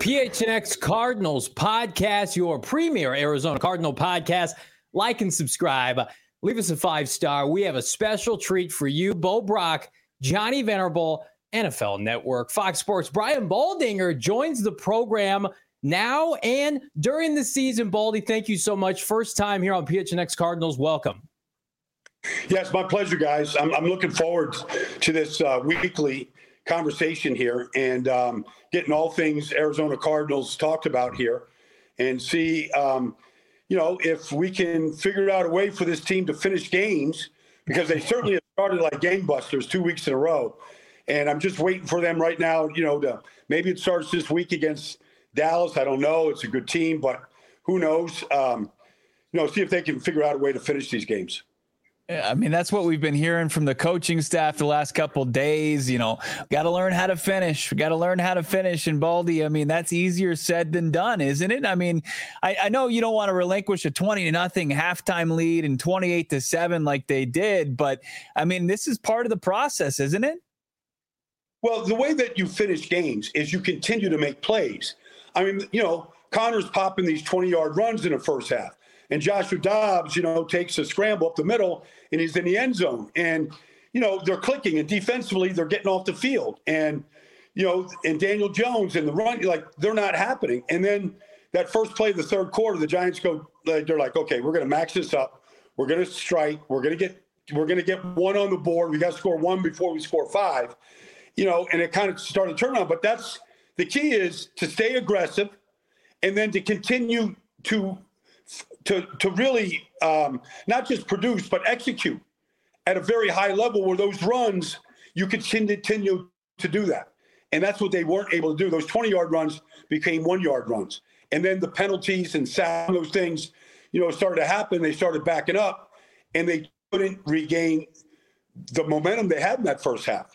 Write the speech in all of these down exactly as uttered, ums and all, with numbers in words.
P H N X Cardinals podcast, your premier Arizona Cardinal podcast. Like and subscribe. Leave us a five-star. We have a special treat for you. Bo Brock, Johnny Venerable, N F L Network, Fox Sports. Brian Baldinger joins the program now and during the season. Baldy, thank you so much. First time here on P H N X Cardinals. Welcome. Yes, my pleasure, guys. I'm, I'm looking forward to this uh, weekly conversation here and um, getting all things Arizona Cardinals talked about here and see, um, you know, if we can figure out a way for this team to finish games, because they certainly have started like gangbusters two weeks in a row. And I'm just waiting for them right now, you know, to maybe it starts this week against Dallas. I don't know. It's a good team, but who knows? Um, you know, see if they can figure out a way to finish these games. I mean, that's what we've been hearing from the coaching staff the last couple of days. You know, got to learn how to finish. We got to learn how to finish. And Baldy, I mean, that's easier said than done, isn't it? I mean, I, I know you don't want to relinquish a twenty to nothing halftime lead and twenty-eight to seven like they did, but I mean, this is part of the process, isn't it? Well, the way that you finish games is you continue to make plays. I mean, you know, Connor's popping these twenty-yard runs in the first half. And Joshua Dobbs, you know, takes a scramble up the middle and he's in the end zone. And, you know, they're clicking and defensively they're getting off the field. And, you know, and Daniel Jones and the run, like they're not happening. And then that first play of the third quarter, the Giants go, they're like, okay, we're going to max this up. We're going to strike. We're going to get, we're going to get one on the board. We got to score one before we score five, you know, and it kind of started to turn on. But that's the key, is to stay aggressive and then to continue to, to to really um, not just produce, but execute at a very high level where those runs, you could continue to do that. And that's what they weren't able to do. Those twenty-yard runs became one-yard runs. And then the penalties and sacks, those things, you know, started to happen. They started backing up, and they couldn't regain the momentum they had in that first half.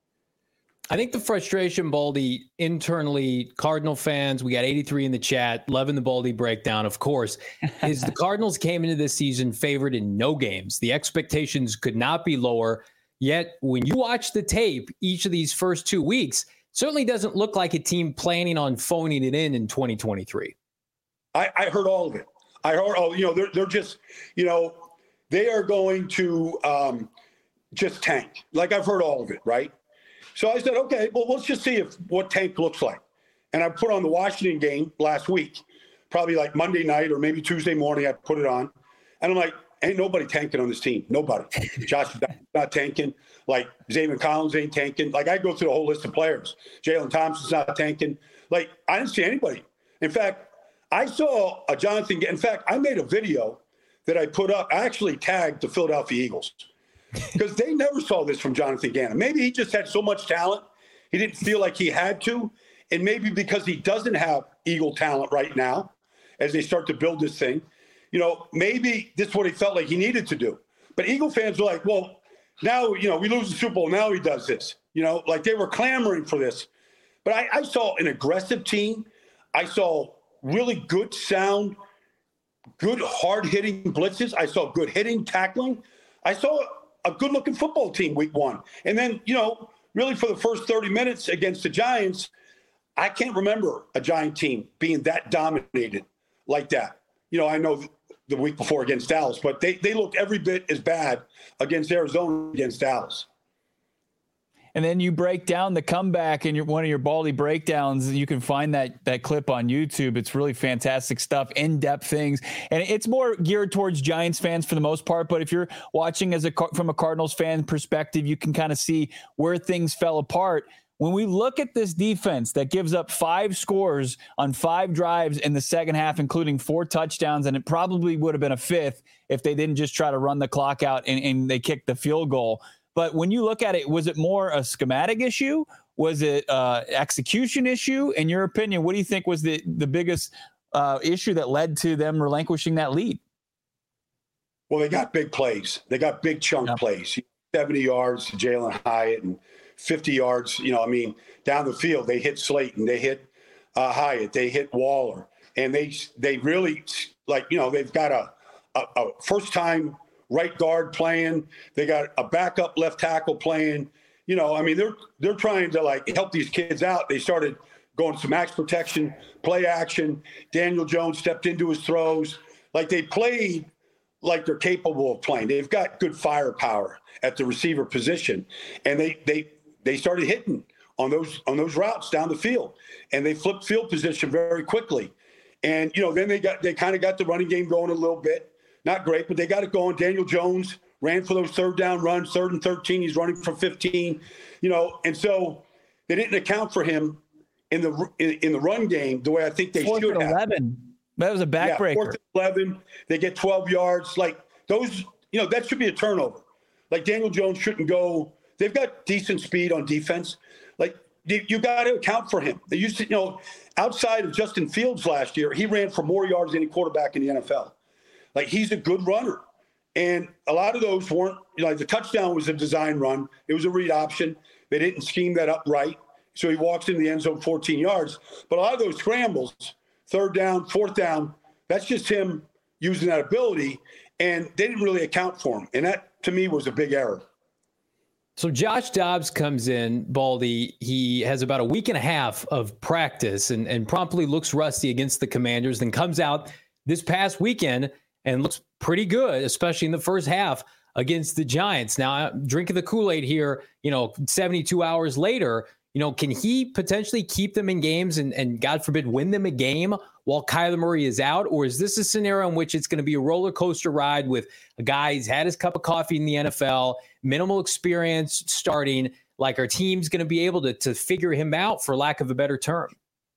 I think the frustration, Baldy, internally, Cardinal fans, we got eighty-three in the chat, loving the Baldy breakdown, of course, is the Cardinals came into this season favored in no games. The expectations could not be lower. Yet, when you watch the tape each of these first two weeks, certainly doesn't look like a team planning on phoning it in in twenty twenty-three. I, I heard all of it. I heard all, you know, they're, they're just, you know, they are going to um, just tank. Like I've heard all of it, right? So I said, okay, well, let's just see if what tank looks like. And I put on the Washington game last week, probably like Monday night or maybe Tuesday morning. I put it on, and I'm like, ain't nobody tanking on this team. Nobody. Josh not tanking. Like Zayvon Collins ain't tanking. Like I go through the whole list of players. Jalen Thompson's not tanking. Like I didn't see anybody. In fact, I saw a Jonathan. In fact, I made a video that I put up. I actually tagged the Philadelphia Eagles, because they never saw this from Jonathan Gannon. Maybe he just had so much talent, he didn't feel like he had to. And maybe because he doesn't have Eagle talent right now, as they start to build this thing, you know, maybe this is what he felt like he needed to do. But Eagle fans were like, well, now, you know, we lose the Super Bowl. Now he does this. You know, like they were clamoring for this. But I, I saw an aggressive team. I saw really good sound, good hard-hitting blitzes. I saw good hitting, tackling. I saw a good-looking football team week one. And then, you know, really for the first thirty minutes against the Giants, I can't remember a Giant team being that dominated like that. You know, I know the week before against Dallas, but they, they looked every bit as bad against Arizona against Dallas. And then you break down the comeback in your, one of your Baldy breakdowns. You can find that that clip on YouTube. It's really fantastic stuff, in-depth things. And it's more geared towards Giants fans for the most part. But if you're watching as a from a Cardinals fan perspective, you can kind of see where things fell apart. When we look at this defense that gives up five scores on five drives in the second half, including four touchdowns, and it probably would have been a fifth if they didn't just try to run the clock out and, and they kicked the field goal. But when you look at it, was it more a schematic issue? Was it uh execution issue? In your opinion, what do you think was the, the biggest uh, issue that led to them relinquishing that lead? Well, they got big plays. They got big chunk yeah. plays. seventy yards to Jalen Hyatt and fifty yards, you know, I mean, down the field. They hit Slayton. They hit uh, Hyatt. They hit Waller. And they they really, like, you know, they've got a, a, a first-time right guard playing. They got a backup left tackle playing. You know, I mean, they're they're trying to, like, help these kids out. They started going to max protection, play action. Daniel Jones stepped into his throws. Like they played like they're capable of playing. They've got good firepower at the receiver position. And they they they started hitting on those on those routes down the field. And they flipped field position very quickly. And, you know, then they got they kind of got the running game going a little bit. Not great, but they got it going. Daniel Jones ran for those third down runs, third and thirteen. He's running for fifteen, you know, and so they didn't account for him in the in, in the run game the way I think they Fourth should and have. eleven. That was a backbreaker. Yeah, fourth and eleven. They get twelve yards. Like those, you know, that should be a turnover. Like Daniel Jones shouldn't go. They've got decent speed on defense. Like you, you got to account for him. They used to, you know, outside of Justin Fields last year, he ran for more yards than any quarterback in the N F L. Like he's a good runner. And a lot of those weren't, you know, like the touchdown was a design run. It was a read option. They didn't scheme that up right. So he walks in the end zone fourteen yards. But a lot of those scrambles, third down, fourth down, that's just him using that ability. And they didn't really account for him. And that, to me, was a big error. So Josh Dobbs comes in, Baldy. He has about a week and a half of practice and, and promptly looks rusty against the Commanders, then comes out this past weekend and looks pretty good, especially in the first half against the Giants. Now, I'm drinking the Kool-Aid here, you know, seventy-two hours later, you know, can he potentially keep them in games and, and God forbid, win them a game while Kyler Murray is out? Or is this a scenario in which it's going to be a roller coaster ride with a guy who's had his cup of coffee in the N F L, minimal experience starting, like our team's going to be able to, to figure him out, for lack of a better term?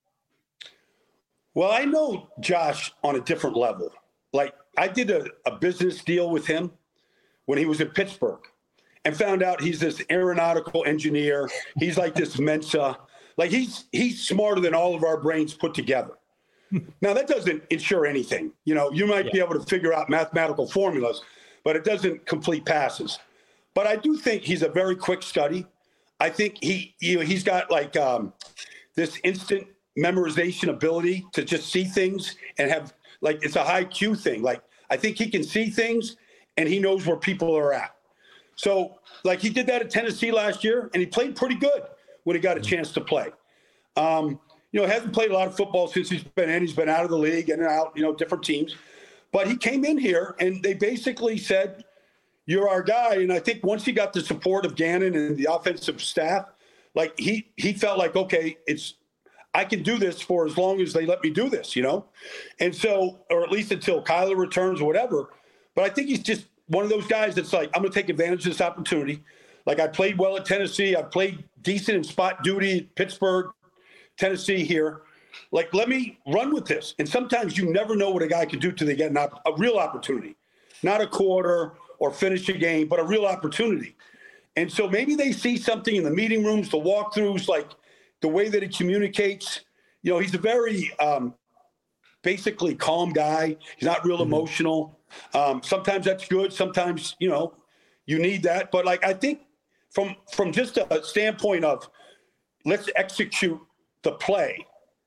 Well, I know Josh on a different level. Like I did a, a business deal with him when he was in Pittsburgh and found out he's this aeronautical engineer. He's like this Mensa. Like he's he's smarter than all of our brains put together. Now, that doesn't ensure anything. You know, you might yeah. be able to figure out mathematical formulas, but it doesn't complete passes. But I do think he's a very quick study. I think he, you know, he's got like um, this instant memorization ability to just see things and have like, it's a high Q thing. Like, I think he can see things and he knows where people are at. So like he did that at Tennessee last year and he played pretty good when he got a chance to play. Um, You know, hasn't played a lot of football since he's been in. He's been out of the league, in and out, you know, different teams. But he came in here, and they basically said, you're our guy. And I think once he got the support of Gannon and the offensive staff, like he he felt like, okay, it's I can do this for as long as they let me do this, you know? And so, or at least until Kyler returns or whatever. But I think he's just one of those guys that's like, I'm going to take advantage of this opportunity. Like I played well at Tennessee. I played decent in spot duty at Pittsburgh, Tennessee here. Like, let me run with this. And sometimes you never know what a guy can do till they get an op- a real opportunity, not a quarter or finish a game, but a real opportunity. And so maybe they see something in the meeting rooms, the walkthroughs, like the way that he communicates. You know, he's a very um, basically calm guy. He's not real mm-hmm. emotional. Um, sometimes that's good. Sometimes, you know, you need that. But like, I think from, from just a standpoint of let's execute the play,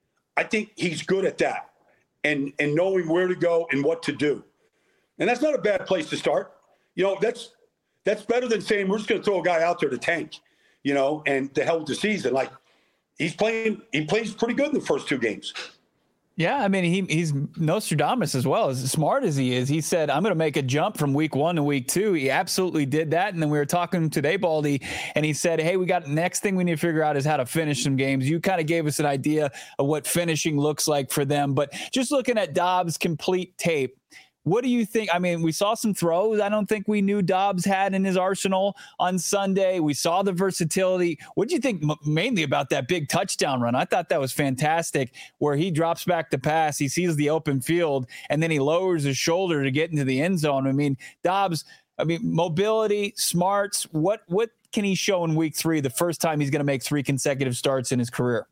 I think he's good at that and and knowing where to go and what to do. And that's not a bad place to start. You know, that's that's better than saying we're just going to throw a guy out there to tank, you know, and to hell with the season. Like he's playing, he plays pretty good in the first two games. Yeah, I mean, he he's Nostradamus as well. As smart as he is, he said, I'm going to make a jump from week one to week two. He absolutely did that. And then we were talking today, Baldy, and he said, hey, we got next thing we need to figure out is how to finish some games. You kind of gave us an idea of what finishing looks like for them. But just looking at Dobbs' complete tape, what do you think? I mean, we saw some throws I don't think we knew Dobbs had in his arsenal on Sunday. We saw the versatility. What do you think m- mainly about that big touchdown run? I thought that was fantastic, where he drops back to pass, he sees the open field, and then he lowers his shoulder to get into the end zone. I mean, Dobbs, I mean, mobility, smarts, what what can he show in week three, the first time he's going to make three consecutive starts in his career?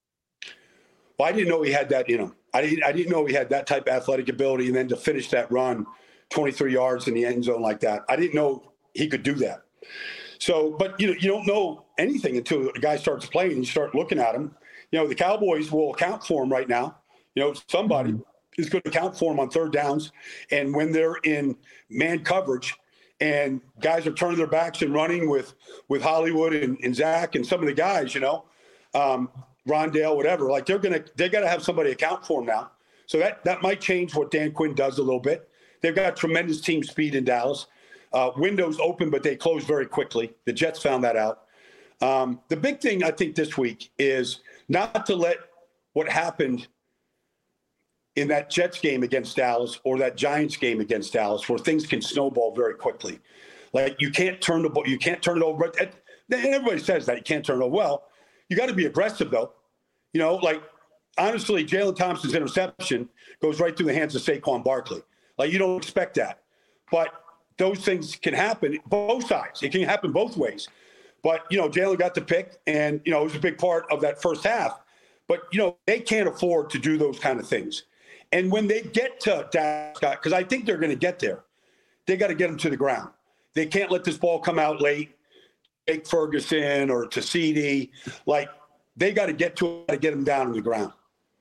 Well, I didn't know he had that in him. I didn't, I didn't know he had that type of athletic ability, and then to finish that run twenty-three yards in the end zone like that. I didn't know he could do that. So, but you know, you don't know anything until a guy starts playing and you start looking at him. You know, the Cowboys will account for him right now. You know, somebody is going to account for him on third downs. And when they're in man coverage and guys are turning their backs and running with, with Hollywood and, and Zach and some of the guys, you know, um, Rondale, whatever. Like they're gonna they got to have somebody account for him now. So that that might change what Dan Quinn does a little bit. They've got tremendous team speed in Dallas. Uh, windows open, but they close very quickly. The Jets found that out. Um, the big thing I think this week is not to let what happened in that Jets game against Dallas or that Giants game against Dallas, where things can snowball very quickly. Like you can't turn the ball, you can't turn it over. And everybody says that you can't turn it over. Well, you got to be aggressive though. You know, like honestly, Jalen Thompson's interception goes right through the hands of Saquon Barkley. Like you don't expect that, but those things can happen both sides. It can happen both ways. But you know, Jalen got the pick, and you know it was a big part of that first half. But you know, they can't afford to do those kind of things. And when they get to Dak Prescott, because I think they're going to get there, they got to get them to the ground. They can't let this ball come out late, Jake Ferguson or to C D. Like they got to get to it to get them down on the ground.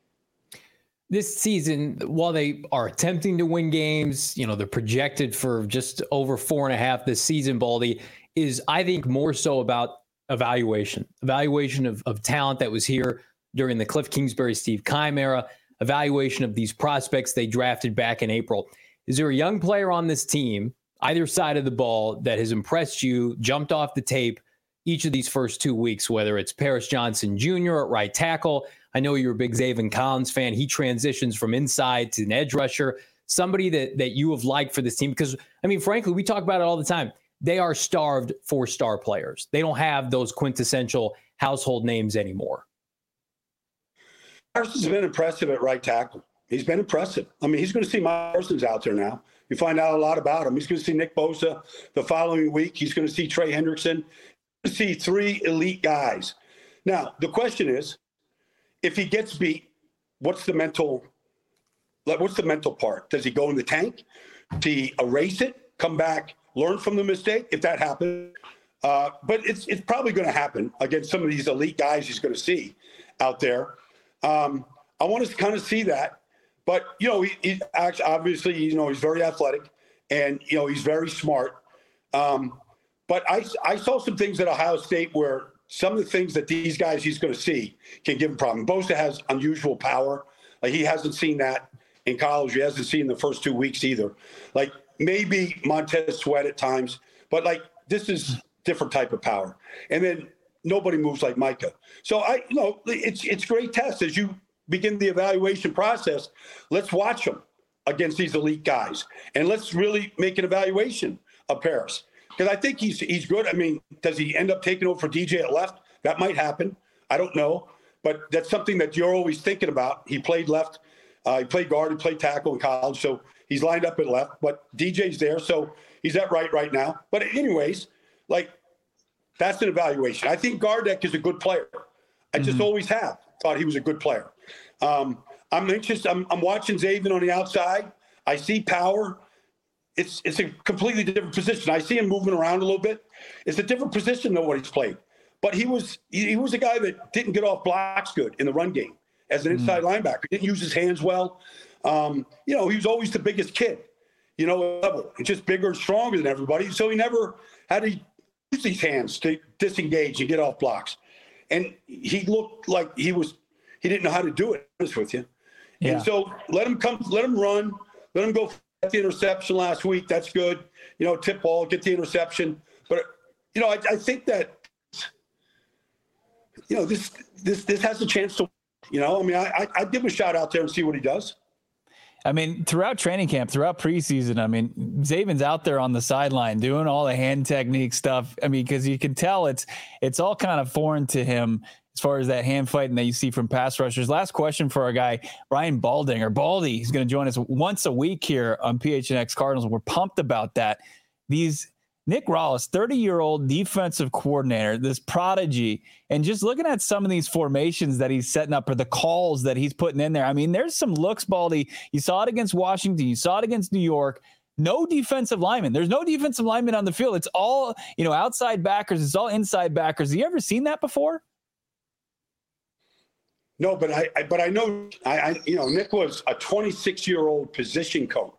This season, while they are attempting to win games, you know, they're projected for just over four and a half this season, Baldy, is I think more so about evaluation, evaluation of, of talent that was here during the Cliff Kingsbury, Steve Keim era, evaluation of these prospects they drafted back in April. Is there a young player on this team, either side of the ball, that has impressed you, jumped off the tape each of these first two weeks, whether it's Paris Johnson Junior at right tackle? I know you're a big Zaven Collins fan. He transitions from inside to an edge rusher, somebody that that you have liked for this team. Because, I mean, frankly, we talk about it all the time. They are starved for star players. They don't have those quintessential household names anymore. Parsons has been impressive at right tackle. He's been impressive. I mean, he's going to see Mike Parsons out there now. You find out a lot about him. He's going to see Nick Bosa the following week. He's going to see Trey Hendrickson. He's going to see three elite guys. Now, the question is, if he gets beat, what's the mental, like, what's the mental part? Does he go in the tank? Does he erase it, come back, learn from the mistake, if that happens? Uh, but it's it's probably going to happen against some of these elite guys he's going to see out there. Um, I want to kind of see that. But, you know, he, he actually, obviously, you know, he's very athletic and, you know, he's very smart. Um, but I, I saw some things at Ohio State where some of the things that these guys he's going to see can give him a problem. Bosa has unusual power. Like, he hasn't seen that in college. He hasn't seen the first two weeks either. Like, maybe Montez Sweat at times. But, like, this is different type of power. And then nobody moves like Micah. So, I, you know, it's it's great test as you begin the evaluation process. Let's watch them against these elite guys. And let's really make an evaluation of Paris. Because I think he's he's good. I mean, does he end up taking over for D J at left? That might happen. I don't know. But that's something that you're always thinking about. He played left. Uh, he played guard. He played tackle in college. So he's lined up at left. But D J's there. So he's at right right now. But anyways, like, that's an evaluation. I think Gardeck is a good player. I just mm-hmm. always have thought he was a good player. Um, I'm interested. I'm, I'm watching Zaven on the outside. I see power. It's it's a completely different position. I see him moving around a little bit. It's a different position than what he's played. But he was he, he was a guy that didn't get off blocks good in the run game as an inside mm. linebacker. He didn't use his hands well. Um, you know, he was always the biggest kid, you know, level. He's just bigger and stronger than everybody. So he never had to use these hands to disengage and get off blocks. And he looked like he was he didn't know how to do it, to be honest with you. Yeah. And so let him come, let him run, let him go. Get the interception last week. That's good. You know, tip ball, get the interception. But, you know, I, I think that, you know, this this this has a chance to, you know, I mean, I, I'd give him a shot out there and see what he does. I mean, throughout training camp, throughout preseason, I mean, Zaven's out there on the sideline doing all the hand technique stuff. I mean, because you can tell it's it's all kind of foreign to him as far as that hand fighting that you see from pass rushers. Last question for our guy, Brian Balding, or Baldy. He's going to join us once a week here on P H N X Cardinals. We're pumped about that. These Nick Rallis, thirty-year-old defensive coordinator, this prodigy, and just looking at some of these formations that he's setting up or the calls that he's putting in there. I mean, there's some looks, Baldy. You saw it against Washington. You saw it against New York. No defensive lineman. There's no defensive lineman on the field. It's all, you know, outside backers. It's all inside backers. Have you ever seen that before? No, but I, I but I know I, I you know Nick was a twenty-six-year-old position coach.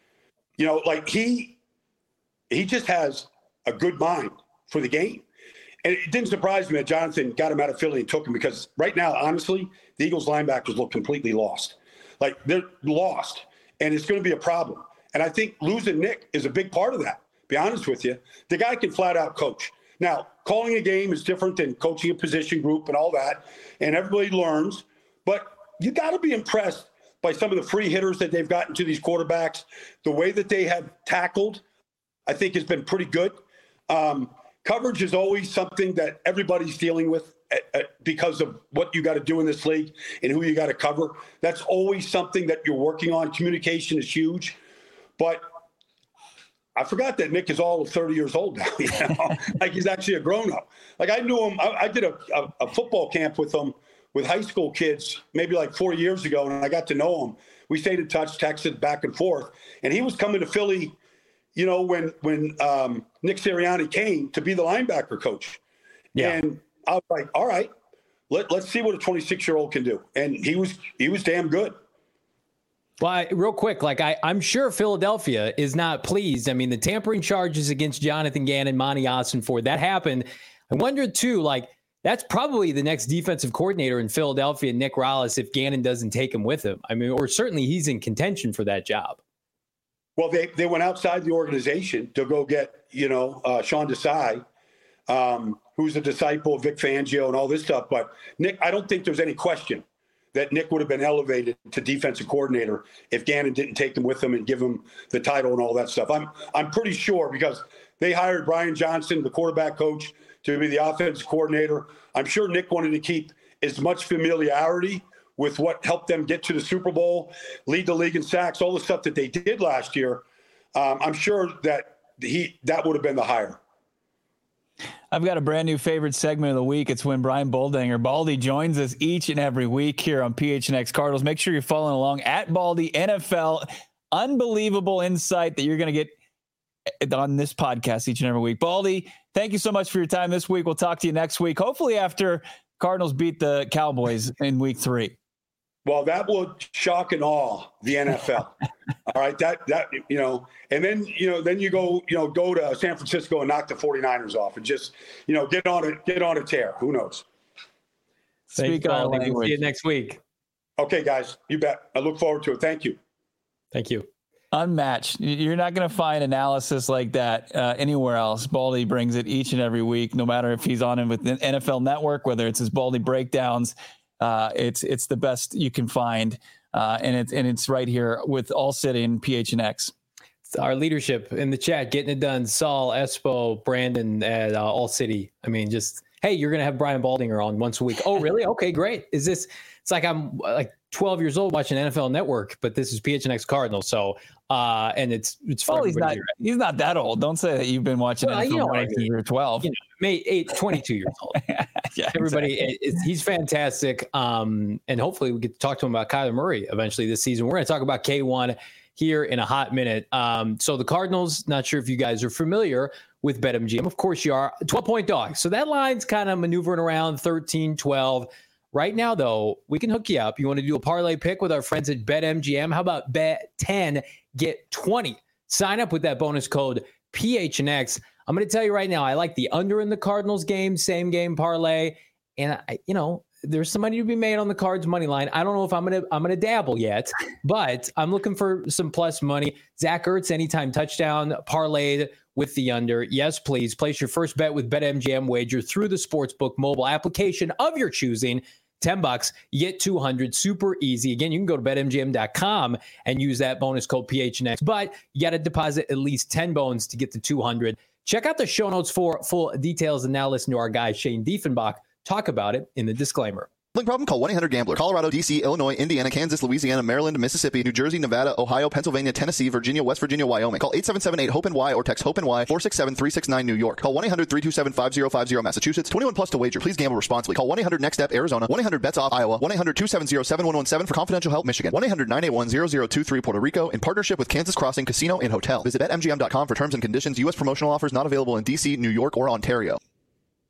You know, like he he just has a good mind for the game. And it didn't surprise me that Jonathan got him out of Philly and took him, because right now, honestly, the Eagles linebackers look completely lost. Like, they're lost, and it's going to be a problem. And I think losing Nick is a big part of that, to be honest with you. The guy can flat out coach. Now, calling a game is different than coaching a position group and all that, and everybody learns. But you got to be impressed by some of the free hitters that they've gotten to these quarterbacks. The way that they have tackled, I think, has been pretty good. Um, coverage is always something that everybody's dealing with at, at, because of what you got to do in this league and who you got to cover. That's always something that you're working on. Communication is huge. But I forgot that Nick is all of thirty years old now. You know? Like, he's actually a grown-up. Like, I knew him. I, I did a, a, a football camp with him with high school kids maybe like four years ago, and I got to know him. We stayed in touch, texted back and forth. And he was coming to Philly, you know, when when um, Nick Sirianni came to be the linebacker coach. Yeah. And I was like, all right, let, let's see what a twenty-six-year-old can do. And he was he was damn good. Well, I, real quick, like I, I'm sure Philadelphia is not pleased. I mean, the tampering charges against Jonathan Gannon, Monty Ossenford, that happened. I wonder, too, like, that's probably the next defensive coordinator in Philadelphia, Nick Rallis, if Gannon doesn't take him with him. I mean, or certainly he's in contention for that job. Well, they, they went outside the organization to go get, you know, uh, Sean Desai, um, who's a disciple of Vic Fangio and all this stuff. But, Nick, I don't think there's any question that Nick would have been elevated to defensive coordinator if Gannon didn't take him with him and give him the title and all that stuff. I'm I'm pretty sure, because they hired Brian Johnson, the quarterback coach, to be the offensive coordinator. I'm sure Nick wanted to keep as much familiarity with what helped them get to the Super Bowl, lead the league in sacks, all the stuff that they did last year. Um, I'm sure that he that would have been the hire. I've got a brand new favorite segment of the week. It's when Brian Baldinger, Baldy, joins us each and every week here on P H N X Cardinals. Make sure you're following along at Baldy N F L. Unbelievable insight that you're going to get on this podcast each and every week. Baldy, thank you so much for your time this week. We'll talk to you next week, hopefully after Cardinals beat the Cowboys in week three. Well, that would shock and awe the N F L. All right. That, that, you know, and then, you know, then you go, you know, go to San Francisco and knock the forty-niners off and just, you know, get on a, get on a tear. Who knows? Speak on language. We'll see you next week. Okay, guys, you bet. I look forward to it. Thank you. Thank you. Unmatched. You're not going to find analysis like that uh, anywhere else. Baldy brings it each and every week, no matter if he's on it with the N F L Network, whether it's his Baldy breakdowns. Uh, it's it's the best you can find, uh, and it's and it's right here with All City and P H N X. It's our leadership in the chat getting it done. Saul, Espo, Brandon at uh, All City. I mean, just hey, you're gonna have Brian Baldinger on once a week. Oh, really? Okay, great. Is this? It's like I'm like twelve years old watching N F L Network, but this is P H N X Cardinals. So, uh, and it's it's for oh, he's not here. He's not that old. Don't say that you've been watching well, N F L you know Network since you were twelve. You know, May eight, twenty-two years old. Yeah, everybody, exactly. it, he's fantastic. Um, and hopefully we get to talk to him about Kyler Murray eventually this season. We're going to talk about K one here in a hot minute. Um, so the Cardinals, not sure if you guys are familiar with BetMGM. Of course you are. twelve point dogs. So that line's kind of maneuvering around thirteen, twelve. Right now, though, we can hook you up. You want to do a parlay pick with our friends at BetMGM? How about bet ten, get twenty? Sign up with that bonus code P H N X. I'm going to tell you right now, I like the under in the Cardinals game, same game parlay. And, I, you know, there's some money to be made on the Cards money line. I don't know if I'm going to I'm going to dabble yet, but I'm looking for some plus money. Zach Ertz, anytime touchdown, parlayed with the under. Yes, please. Place your first bet with BetMGM wager through the Sportsbook mobile application of your choosing. ten bucks, you get two hundred, super easy. Again, you can go to bet M G M dot com and use that bonus code P H N X, but you got to deposit at least ten bones to get the two hundred. Check out the show notes for full details, and now listen to our guy Shane Diefenbach talk about it in the disclaimer. Problem? Call one eight hundred gambler. Colorado, D C, Illinois, Indiana, Kansas, Louisiana, Maryland, Mississippi, New Jersey, Nevada, Ohio, Pennsylvania, Tennessee, Virginia, West Virginia, Wyoming. Call eight seven seven eight hope N Y or text HOPE-N Y four six seven three six nine New York. Call one eight hundred three two seven five zero five zero Massachusetts. twenty-one plus to wager. Please gamble responsibly. Call one eight hundred next step Arizona. one eight hundred bets off Iowa. one eight hundred two seven zero seven one one seven for confidential help Michigan. one eight hundred nine eight one zero zero two three Puerto Rico in partnership with Kansas Crossing Casino and Hotel. Visit bet M G M dot com for terms and conditions. U S promotional offers not available in D C, New York, or Ontario.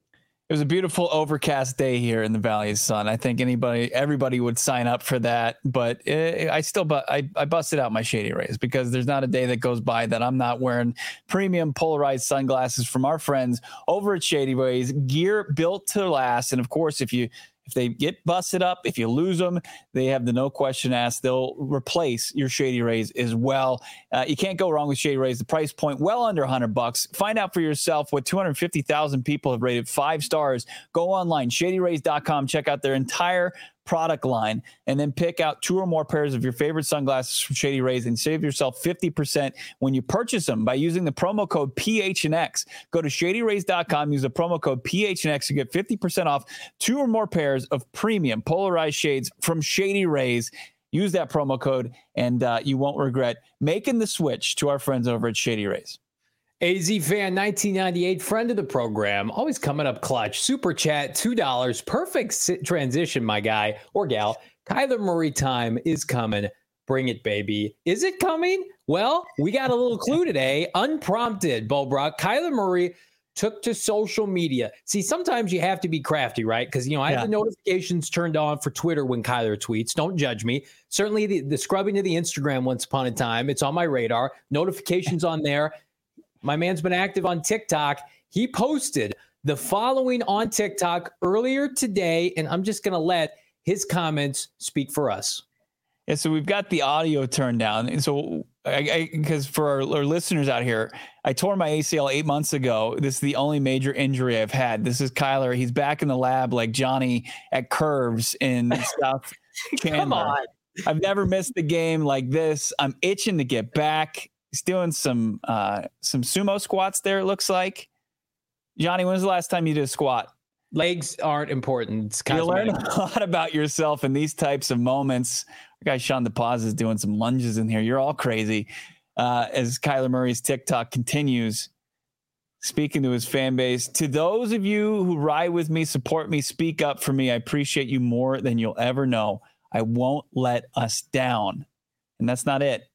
It was a beautiful overcast day here in the Valley of Sun. I think anybody, everybody would sign up for that. But it, I still, but I, I busted out my Shady Rays because there's not a day that goes by that I'm not wearing premium polarized sunglasses from our friends over at Shady Rays. Gear built to last. And of course, if you if they get busted up, if you lose them, they have the no question asked. They'll replace your Shady Rays as well. Uh, you can't go wrong with Shady Rays. The price point well under one hundred bucks. Find out for yourself what two hundred fifty thousand people have rated five stars. Go online, shady rays dot com. Check out their entire product line and then pick out two or more pairs of your favorite sunglasses from Shady Rays and save yourself fifty percent when you purchase them by using the promo code P H N X. Go to shady rays dot com, use the promo code P H N X to get fifty percent off two or more pairs of premium polarized shades from Shady Rays. Use that promo code and uh, you won't regret making the switch to our friends over at Shady Rays. A Z Fan nineteen ninety-eight, friend of the program, always coming up clutch. Super chat, two dollars. Perfect sit transition, my guy or gal. Kyler Murray time is coming. Bring it, baby. Is it coming? Well, we got a little clue today. Unprompted, Bo Brock. Kyler Murray took to social media. See, sometimes you have to be crafty, right? Because, you know, I Yeah. have the notifications turned on for Twitter when Kyler tweets. Don't judge me. Certainly the, the scrubbing of the Instagram once upon a time. It's on my radar. Notifications on there. My man's been active on TikTok. He posted the following on TikTok earlier today, and I'm just going to let his comments speak for us. Yeah, so we've got the audio turned down. And so, because for our, our listeners out here, I tore my A C L eight months ago. This is the only major injury I've had. This is Kyler. He's back in the lab like Johnny at Curves in South Chandler. Come on. I've never missed a game like this. I'm itching to get back. He's doing some uh, some sumo squats there, it looks like. Johnny, when was the last time you did a squat? Legs aren't important. It's You learn cosmetic. a lot about yourself in these types of moments. Our guy Sean DePaz is doing some lunges in here. You're all crazy. Uh, as Kyler Murray's TikTok continues, speaking to his fan base, to those of you who ride with me, support me, speak up for me, I appreciate you more than you'll ever know. I won't let us down. And that's not it.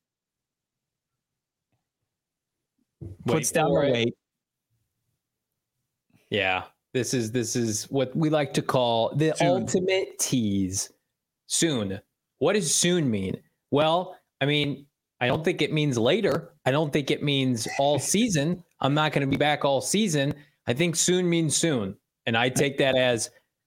Puts Wait down for the it. weight. Yeah, this is this is what we like to call the Soon. ultimate tease. Soon. What does soon mean? Well, I mean, I don't think it means later. I don't think it means all season. I'm not going to be back all season. I think soon means soon, and I take that as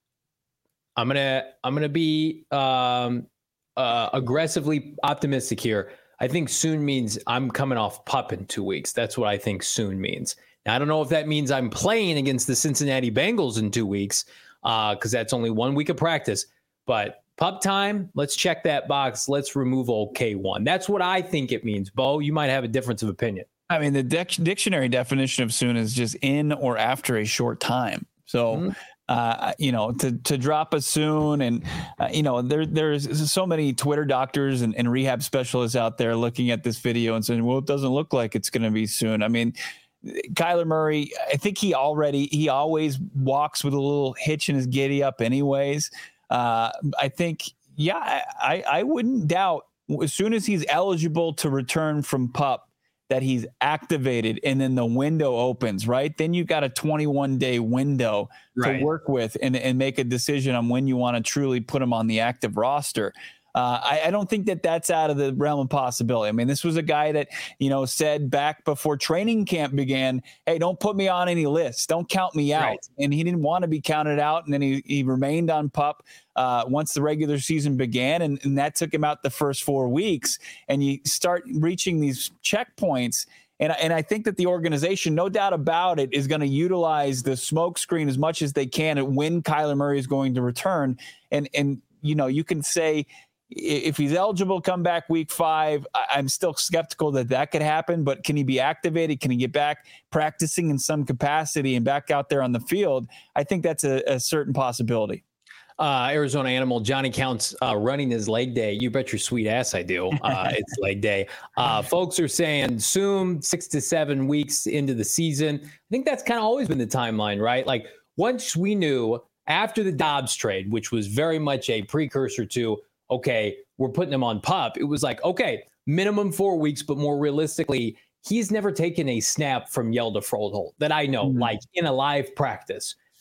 I'm gonna I'm gonna be um, uh, aggressively optimistic here. I think soon means I'm coming off pup in two weeks. That's what I think soon means. Now, I don't know if that means I'm playing against the Cincinnati Bengals in two weeks because uh, that's only one week of practice. But pup time, let's check that box. Let's remove old K one. That's what I think it means. Bo, you might have a difference of opinion. I mean, the dic- dictionary definition of soon is just in or after a short time. So, mm-hmm. uh, you know, to to drop a soon, and uh, you know, there there's so many Twitter doctors and, and rehab specialists out there looking at this video and saying, well, it doesn't look like it's going to be soon. I mean, Kyler Murray, I think he already he always walks with a little hitch in his giddy up, anyways. Uh, I think, yeah, I I wouldn't doubt as soon as he's eligible to return from pup that he's activated and then the window opens, right? Then you've got a twenty-one day window right. to work with and, and make a decision on when you want to truly put him on the active roster. Uh, I, I don't think that that's out of the realm of possibility. I mean, this was a guy that, you know, said back before training camp began, hey, don't put me on any lists. Don't count me out. Right. And he didn't want to be counted out. And then he, he remained on pup uh, once the regular season began. And, and that took him out the first four weeks. And you start reaching these checkpoints. And, and I think that the organization, no doubt about it, is going to utilize the smoke screen as much as they can at when Kyler Murray is going to return. And, and you know, you can say, if he's eligible, come back week five. I'm still skeptical that that could happen, but can he be activated? Can he get back practicing in some capacity and back out there on the field? I think that's a, a certain possibility. Uh, Arizona Animal, Johnny Counts uh, running his leg day. You bet your sweet ass I do. Uh, it's leg day. Uh, folks are saying soon, six to seven weeks into the season. I think that's kind of always been the timeline, right? Like once we knew after the Dobbs trade, which was very much a precursor to, okay, we're putting him on pup. It was like, okay, minimum four weeks, but more realistically, he's never taken a snap from Hjalte Froholdt that I know, mm-hmm. like in a live practice.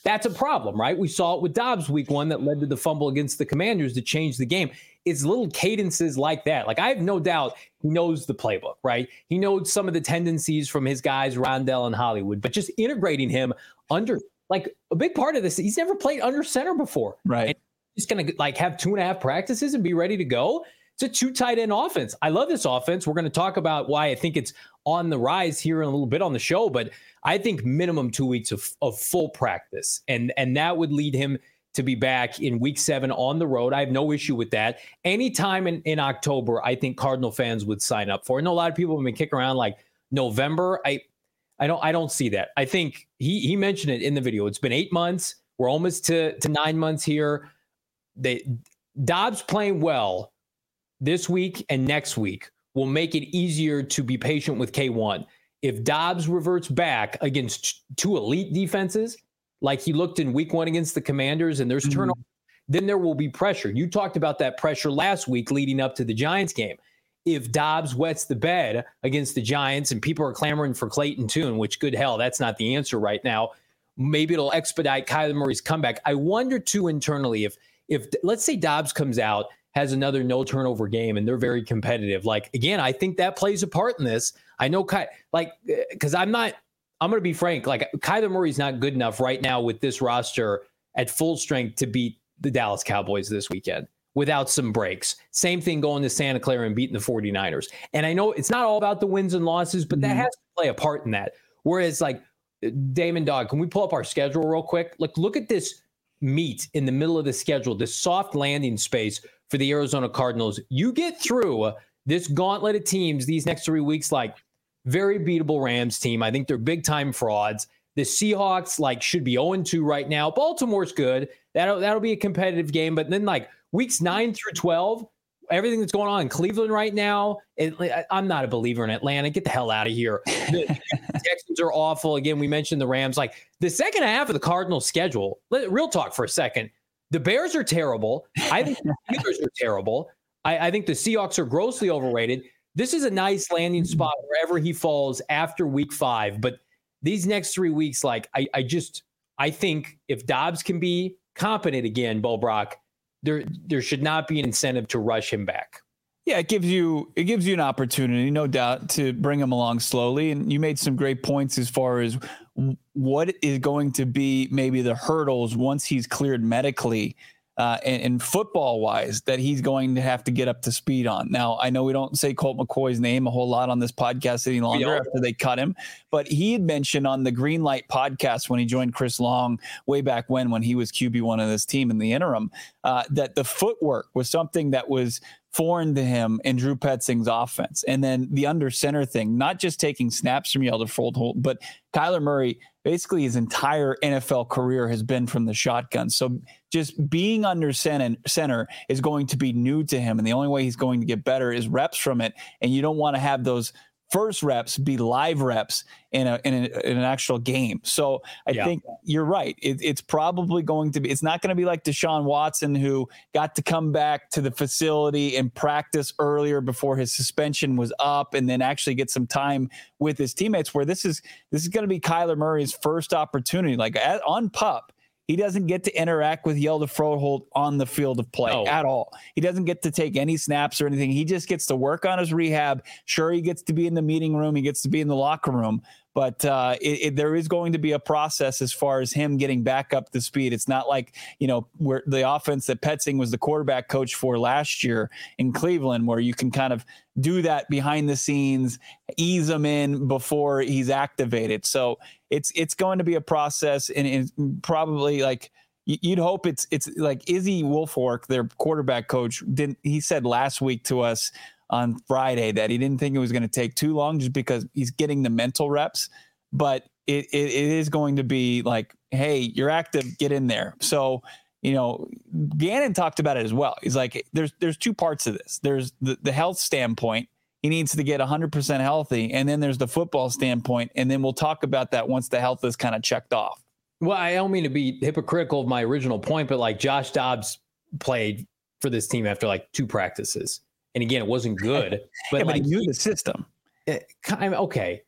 that's a problem, right? We saw it with Dobbs week one that led to the fumble against the Commanders to change the game. It's little cadences like that. Like, I have no doubt he knows the playbook, right? He knows some of the tendencies from his guys, Rondell and Hollywood, but just integrating him under, like, a big part of this, he's never played under center before. Right. And he's going to, like, have two and a half practices and be ready to go. It's a two tight end offense. I love this offense. We're going to talk about why I think it's on the rise here in a little bit on the show, but I think minimum two weeks of, of full practice. And, and that would lead him to be back in week seven on the road. I have no issue with that. Anytime in, in October, I think Cardinal fans would sign up for. I know a lot of people have been kicking around like November. I, I don't, I don't see that. I think he, he mentioned it in the video. It's been eight months. We're almost to, to nine months here. They, Dobbs playing well this week and next week will make it easier to be patient with K one. If Dobbs reverts back against two elite defenses, like he looked in week one against the Commanders, and there's turnover, mm-hmm. then there will be pressure. You talked about that pressure last week leading up to the Giants game. If Dobbs wets the bed against the Giants and people are clamoring for Clayton Tune, which good hell, that's not the answer right now, maybe it'll expedite Kyler Murray's comeback. I wonder too internally if, if let's say Dobbs comes out, has another no turnover game, and they're very competitive. Like, again, I think that plays a part in this. I know, Ky- like, because I'm not, I'm going to be frank, like, Kyler Murray's not good enough right now with this roster at full strength to beat the Dallas Cowboys this weekend without some breaks. Same thing going to Santa Clara and beating the 49ers. And I know it's not all about the wins and losses, but that mm-hmm. has to play a part in that. Whereas, like, Damon Dog, can we pull up our schedule real quick? Like, look at this meat in the middle of the schedule, this soft landing space for the Arizona Cardinals. You get through this gauntlet of teams these next three weeks, like, very beatable Rams team. I think they're big time frauds. The Seahawks, like, should be oh and two right now. Baltimore's good. That'll, that'll be a competitive game. But then, like, weeks nine through twelve, everything that's going on in Cleveland right now, it, I'm not a believer in Atlanta. Get the hell out of here. The, the Texans are awful. Again, we mentioned the Rams. Like, the second half of the Cardinals schedule, let, real talk for a second. The Bears are terrible. I think the Steelers are terrible. I, I think the Seahawks are grossly overrated. This is a nice landing spot wherever he falls after week five. But these next three weeks, like, I, I just, I think if Dobbs can be competent again, Bo Brock, there, there should not be an incentive to rush him back. Yeah, it gives you, it gives you an opportunity, no doubt, to bring him along slowly. And you made some great points as far as what is going to be maybe the hurdles once he's cleared medically. Uh, and, and football wise, that he's going to have to get up to speed on. Now, I know we don't say Colt McCoy's name a whole lot on this podcast any longer after they cut him, but he had mentioned on the Green Light podcast when he joined Chris Long way back when, when he was Q B one of this team in the interim, uh, that the footwork was something that was foreign to him in Drew Petzing's offense. And then the under center thing, not just taking snaps from Yelder Froholt, but Kyler Murray, basically his entire N F L career has been from the shotgun. So just being under center is going to be new to him. And the only way he's going to get better is reps from it. And you don't want to have those first reps be live reps in a in, a, in an actual game. So I yeah. think you're right. It, it's probably going to be, it's not going to be like Deshaun Watson, who got to come back to the facility and practice earlier before his suspension was up and then actually get some time with his teammates, where this is, this is going to be Kyler Murray's first opportunity. Like at, on PUP, he doesn't get to interact with Yelder Froholt on the field of play no. at all. He doesn't get to take any snaps or anything. He just gets to work on his rehab. Sure, he gets to be in the meeting room. He gets to be in the locker room. But uh, it, it, there is going to be a process as far as him getting back up to speed. It's not like, you know, where the offense that Petzing was the quarterback coach for last year in Cleveland, where you can kind of do that behind the scenes, ease him in before he's activated. So it's it's going to be a process, and, and probably like you'd hope it's it's like Izzy Wolfork, their quarterback coach, didn't he said last week to us on Friday that he didn't think it was going to take too long just because he's getting the mental reps, but it, it, it is going to be like, hey, you're active, get in there. So, you know, Gannon talked about it as well. He's like, there's, there's two parts of this. There's the, the health standpoint. He needs to get one hundred percent healthy. And then there's the football standpoint. And then we'll talk about that once the health is kind of checked off. Well, I don't mean to be hypocritical of my original point, but like Josh Dobbs played for this team after like two practices. And again, it wasn't good, but, yeah, but like, he knew the system. It, okay.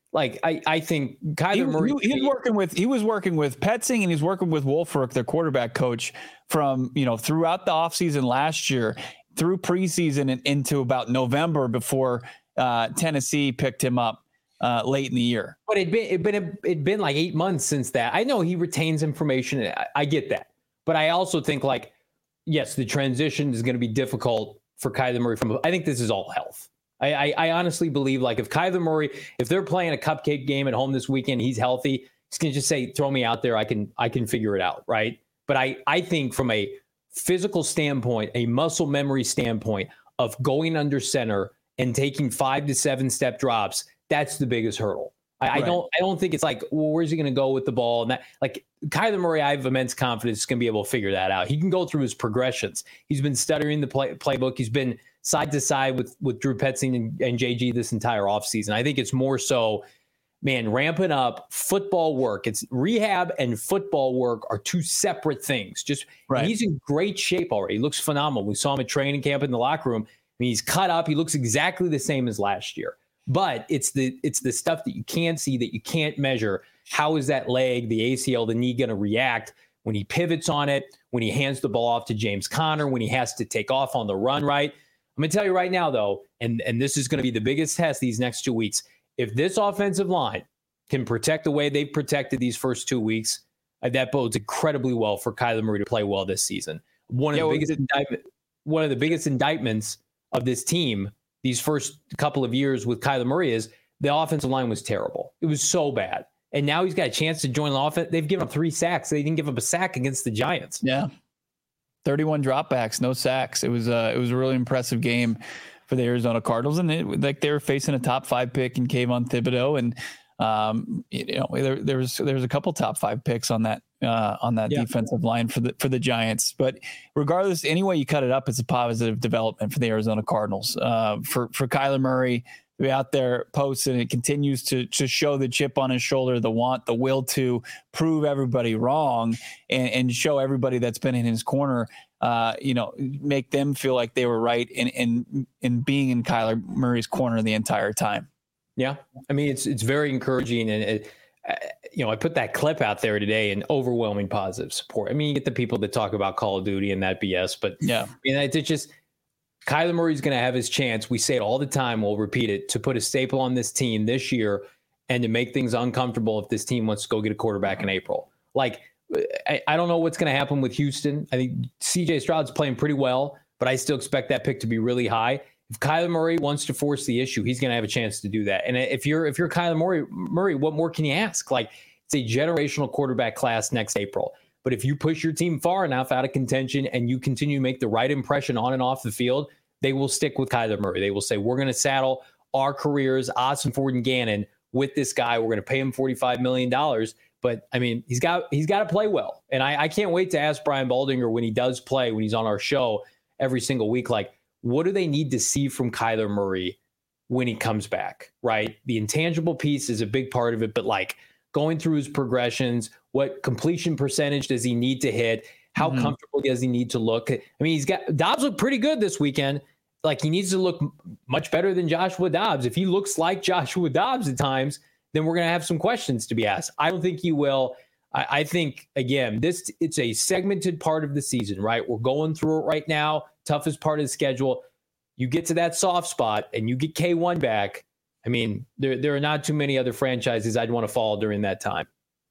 Like I, I think Kyler he, Murray. He, he was working with he was working with Petzing and he's working with Wolfrick, their quarterback coach, from you know throughout the offseason last year, through preseason and into about November before uh, Tennessee picked him up uh, late in the year. But it'd been it'd been it'd been like eight months since that. I know he retains information. I, I get that, but I also think like yes, the transition is going to be difficult for Kyler Murray. From I think this is all health. I, I, I honestly believe like if Kyler Murray, if they're playing a cupcake game at home this weekend, he's healthy, he's going to just say, throw me out there. I can, I can figure it out. Right. But I, I think from a physical standpoint, a muscle memory standpoint of going under center and taking five to seven step drops, that's the biggest hurdle. I, right. I don't, I don't think it's like, well, where's he going to go with the ball? And that like Kyler Murray, I have immense confidence he's going to be able to figure that out. He can go through his progressions. He's been stuttering the play, playbook. He's been side to side with, with Drew Petzing and, and J G this entire offseason. I think it's more so, man, ramping up football work. It's rehab and football work are two separate things. Just right. He's in great shape already. He looks phenomenal. We saw him at training camp in the locker room. I mean, he's cut up. He looks exactly the same as last year. But it's the it's the stuff that you can't see, that you can't measure. How is that leg, the A C L, the knee going to react when he pivots on it, when he hands the ball off to James Conner, when he has to take off on the run, right? I'm going to tell you right now, though, and, and this is going to be the biggest test these next two weeks. If this offensive line can protect the way they've protected these first two weeks, uh, that bodes incredibly well for Kyler Murray to play well this season. One of yeah, the biggest indictment, one of the biggest indictments of this team these first couple of years with Kyler Murray is the offensive line was terrible. It was so bad. And now he's got a chance to join the offense. They've given up three sacks. They didn't give up a sack against the Giants. Yeah. thirty-one dropbacks, no sacks. It was uh, it was a really impressive game for the Arizona Cardinals, and it, like they were facing a top five pick in Kayvon Thibodeau, and um, you know there, there was there was a couple top five picks on that uh, on that yeah. defensive line for the for the Giants. But regardless, any way you cut it up, it's a positive development for the Arizona Cardinals. Uh, for for Kyler Murray to be out there posting, it continues to to show the chip on his shoulder, the want, the will to prove everybody wrong, and, and show everybody that's been in his corner, uh, you know, make them feel like they were right in in in being in Kyler Murray's corner the entire time. Yeah, I mean it's it's very encouraging, and it, uh, you know I put that clip out there today, and overwhelming positive support. I mean you get the people that talk about Call of Duty and that B S, but yeah, I mean it's just. Kyler Murray's going to have his chance. We say it all the time. We'll repeat it, to put a staple on this team this year and to make things uncomfortable if this team wants to go get a quarterback in April. Like, I, I don't know what's going to happen with Houston. I think C J Stroud's playing pretty well, but I still expect that pick to be really high. If Kyler Murray wants to force the issue, he's going to have a chance to do that. And if you're if you're Kyler Murray, Murray, what more can you ask? Like, it's a generational quarterback class next April. But if you push your team far enough out of contention and you continue to make the right impression on and off the field, they will stick with Kyler Murray. They will say, we're going to saddle our careers, Austin Ford and Gannon, with this guy. We're going to pay him forty-five million dollars. But, I mean, he's got he's got to play well. And I, I can't wait to ask Brian Baldinger when he does play, when he's on our show every single week, like, what do they need to see from Kyler Murray when he comes back, right? The intangible piece is a big part of it, but, like, going through his progressions, what completion percentage does he need to hit? How mm-hmm. comfortable does he need to look? I mean, he's got Dobbs looked pretty good this weekend. Like, he needs to look much better than Joshua Dobbs. If he looks like Joshua Dobbs at times, then we're going to have some questions to be asked. I don't think he will. I, I think, again, this it's a segmented part of the season, right? We're going through it right now. Toughest part of the schedule. You get to that soft spot and you get K one back. I mean, there there are not too many other franchises I'd want to follow during that time.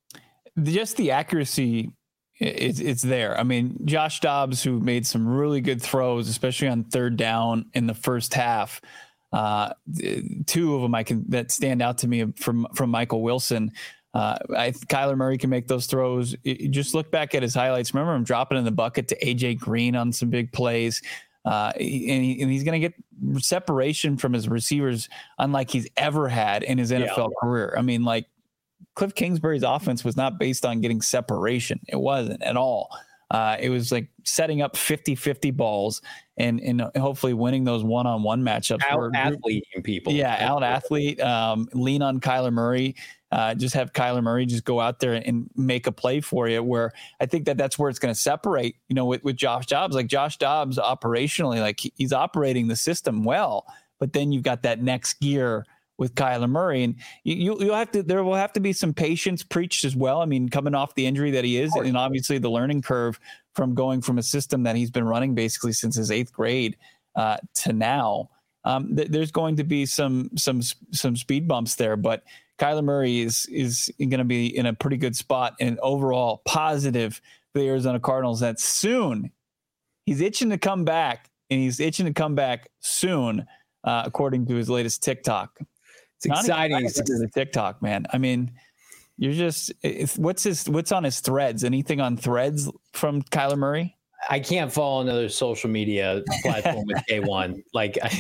Just the accuracy, it's it's there. I mean, Josh Dobbs, who made some really good throws, especially on third down in the first half. Uh, two of them I can that stand out to me from from Michael Wilson. Uh, I Kyler Murray can make those throws. You just look back at his highlights. Remember him dropping in the bucket to A J Green on some big plays. Uh, and, he, and he's going to get separation from his receivers unlike he's ever had in his N F L yeah. career. I mean, like, Cliff Kingsbury's offense was not based on getting separation. It wasn't at all. Uh, it was like setting up fifty-fifty balls and, and hopefully winning those one-on-one matchups. Out-athleting people. Yeah, out-athlete, um, lean on Kyler Murray. Uh, just have Kyler Murray just go out there and make a play for you, where I think that that's where it's going to separate, you know, with, with Josh Dobbs. Like, Josh Dobbs operationally, like, he's operating the system well, but then you've got that next gear with Kyler Murray. And you, you'll have to, there will have to be some patience preached as well. I mean, coming off the injury that he is, and obviously the learning curve from going from a system that he's been running basically since his eighth grade uh, to now. Um, th- there's going to be some, some, some speed bumps there, but Kyler Murray is, is going to be in a pretty good spot and overall positive for the Arizona Cardinals that soon he's itching to come back and he's itching to come back soon. Uh, according to his latest TikTok. It's exciting. It's the TikTok, man. I mean, you're just, it's, what's his, what's on his threads? Anything on threads from Kyler Murray? I can't follow another social media platform with K one. Like, I,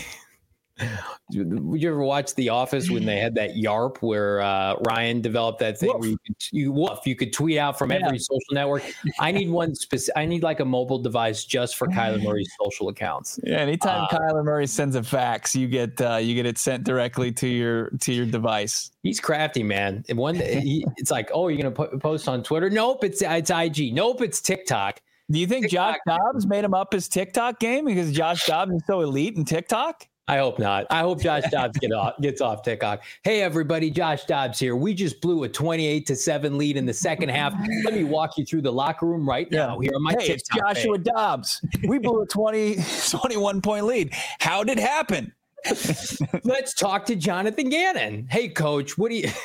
would you ever watch The Office when they had that YARP where uh, Ryan developed that thing Woof. where you could, you, woof, you could tweet out from yeah. every social network? I need one specific. I need like a mobile device just for Kyler Murray's social accounts. Yeah, anytime uh, Kyler Murray sends a fax, you get uh, you get it sent directly to your to your device. He's crafty, man. And one, he, it's like, oh, you're gonna po- post on Twitter? Nope, it's it's I G. Nope, it's TikTok. Do you think TikTok. Josh Dobbs made him up his TikTok game because Josh Dobbs is so elite in TikTok? I hope not. I hope Josh Dobbs get off, gets off TikTok. Hey, everybody, Josh Dobbs here. We just blew a twenty-eight to seven lead in the second half. Let me walk you through the locker room right now. Here on my hey, TikTok it's Joshua page. Dobbs. We blew a twenty, twenty-one point lead. How did it happen? Let's talk to Jonathan Gannon. Hey, Coach, what do you?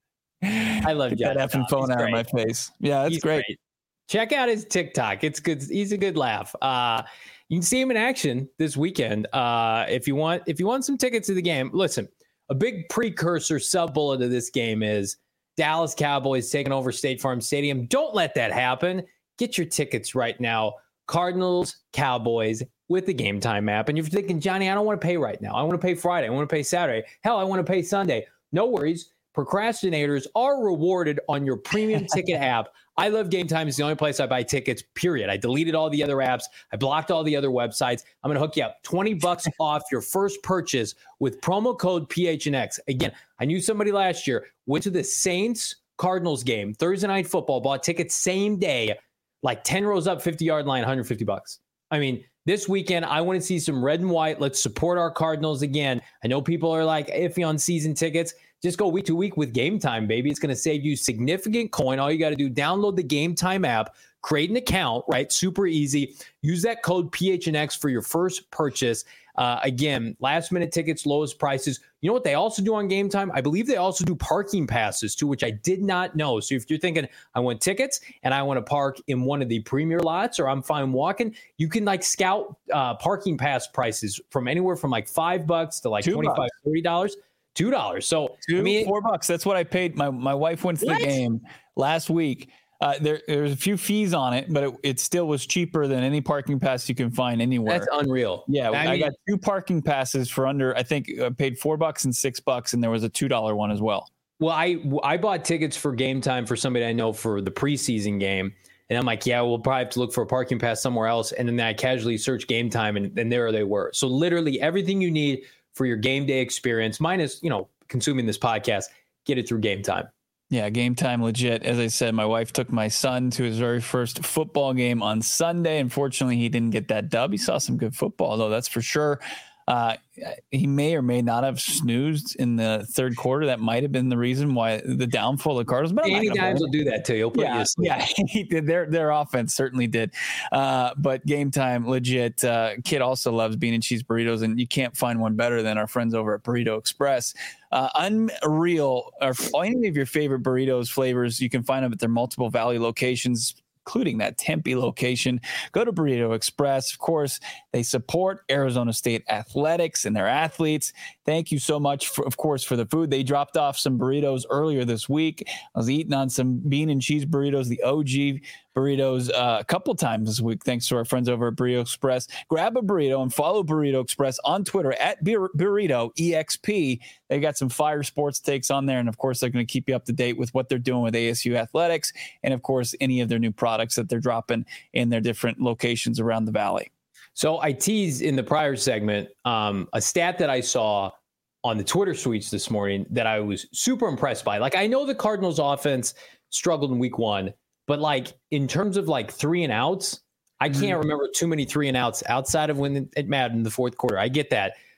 I love Get that effing phone out of my face. Yeah, that's great. great. Check out his TikTok. It's good. He's a good laugh. Uh, You can see him in action this weekend. Uh, if you want, if you want some tickets to the game, listen, a big precursor sub bullet of this game is Dallas Cowboys taking over State Farm Stadium. Don't let that happen. Get your tickets right now. Cardinals, Cowboys with the Game Time app. And you're thinking, Johnny, I don't want to pay right now. I want to pay Friday. I want to pay Saturday. Hell, I want to pay Sunday. No worries. Procrastinators are rewarded on your premium ticket app. I love Game Time. It's the only place I buy tickets, period. I deleted all the other apps. I blocked all the other websites. I'm going to hook you up. twenty bucks off your first purchase with promo code P H N X. Again, I knew somebody last year went to the Saints Cardinals game, Thursday Night Football, bought tickets same day, like ten rows up, fifty yard line, one hundred fifty bucks. I mean, this weekend, I want to see some red and white. Let's support our Cardinals again. I know people are like iffy on season tickets. Just go week to week with Game Time, baby. It's going to save you significant coin. All you got to do, download the Game Time app, create an account, right? Super easy. Use that code P H N X for your first purchase. Uh, again, last minute tickets, lowest prices. You know what they also do on Game Time? I believe they also do parking passes too, which I did not know. So if you're thinking, I want tickets and I want to park in one of the premier lots or I'm fine walking, you can like scout uh, parking pass prices from anywhere from like five bucks to like Two twenty-five dollars, thirty dollars. Two dollars. So Two, I mean, four bucks. That's what I paid. My my wife went to what? the game last week. Uh, there there's a few fees on it, but it, it still was cheaper than any parking pass you can find anywhere. That's unreal. Yeah, I, I mean, got two parking passes for under. I think I paid four bucks and six bucks, and there was a two dollar one as well. Well, I I bought tickets for Game Time for somebody I know for the preseason game. And I'm like, yeah, we'll probably have to look for a parking pass somewhere else. And then I casually search Game Time, and, and there they were. So literally everything you need for your game day experience, minus, you know, consuming this podcast, get it through Game Time. Yeah, Game Time legit. As I said, my wife took my son to his very first football game on Sunday. Unfortunately, he didn't get that dub. He saw some good football, though, that's for sure. Uh, he may or may not have snoozed in the third quarter. That might have been the reason why the downfall of the Cardinals. But Danny Dimes will do that to you. He'll put yeah, you asleep. Yeah, he did. Their their offense certainly did. Uh, but Game Time, legit. Uh, kid also loves bean and cheese burritos, and you can't find one better than our friends over at Burrito Express. Uh, unreal. Or any of your favorite burritos flavors, you can find them at their multiple Valley locations, including that Tempe location. Go to Burrito Express. Of course, they support Arizona State athletics and their athletes. Thank you so much, for, of course, for the food. They dropped off some burritos earlier this week. I was eating on some bean and cheese burritos, the O G burritos, uh, a couple times this week, thanks to our friends over at Burrito Express. Grab a burrito and follow Burrito Express on Twitter at Bur- Burrito E X P. They got some fire sports takes on there, and of course, they're going to keep you up to date with what they're doing with A S U athletics, and of course, any of their new products that they're dropping in their different locations around the Valley. So I teased in the prior segment um, a stat that I saw on the Twitter tweets this morning that I was super impressed by. Like, I know the Cardinals offense struggled in week one, but like in terms of like three and outs, I can't mm-hmm. remember too many three and outs outside of when it mattered in the fourth quarter. I get that.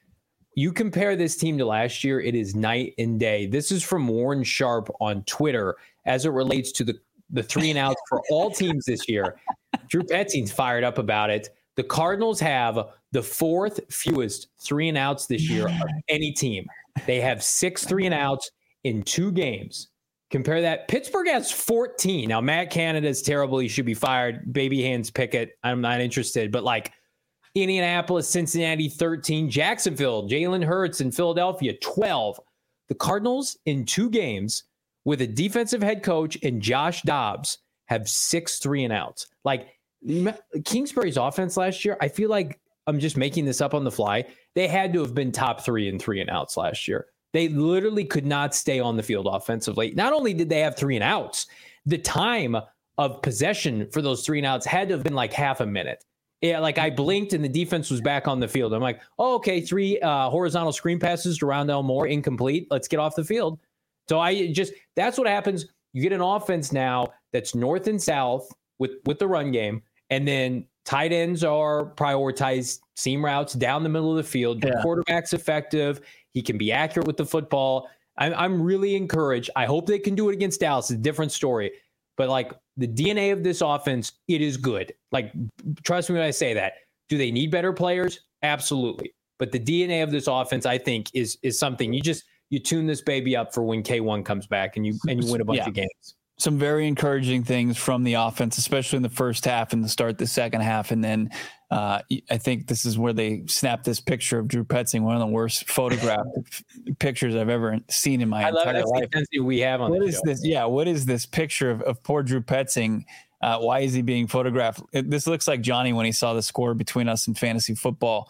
you compare this team to last year, it is night and day. This is from Warren Sharp on Twitter as it relates to the, the three and outs for all teams this year. Drew Petzing's fired up about it. The Cardinals have the fourth fewest three and outs this year of any team. They have six three and outs in two games. Compare that. Pittsburgh has fourteen. Now, Matt Canada is terrible. He should be fired. Baby hands Pickett. I'm not interested. But like Indianapolis, Cincinnati, thirteen. Jacksonville, Jalen Hurts, and Philadelphia, twelve. The Cardinals in two games with a defensive head coach and Josh Dobbs have six three and outs. Like Kingsbury's offense last year, I feel like I'm just making this up on the fly. They had to have been top three in three and outs last year. They literally could not stay on the field offensively. Not only did they have three and outs, the time of possession for those three and outs had to have been like half a minute. Yeah, like I blinked and the defense was back on the field. I'm like, oh, okay, three uh, horizontal screen passes to Rondale Moore, incomplete. Let's get off the field. So I just, that's what happens. You get an offense now that's north and south with, with the run game. And then tight ends are prioritized, seam routes down the middle of the field. Your yeah. quarterback's effective. He can be accurate with the football. I'm, I'm really encouraged. I hope they can do it against Dallas. It's a different story. But like the D N A of this offense, it is good. Like, trust me when I say that. Do they need better players? Absolutely. But the D N A of this offense, I think, is is something you just you tune this baby up for when K one comes back and you and you win a bunch yeah. of games. Some very encouraging things from the offense, especially in the first half and the start the second half. And then uh, I think this is where they snapped this picture of Drew Petzing, one of the worst photographed pictures I've ever seen in my I entire love life. We have on what is show. this? Yeah, what is this picture of, of poor Drew Petzing? Uh, why is he being photographed? It, this looks like Johnny when he saw the score between us in fantasy football.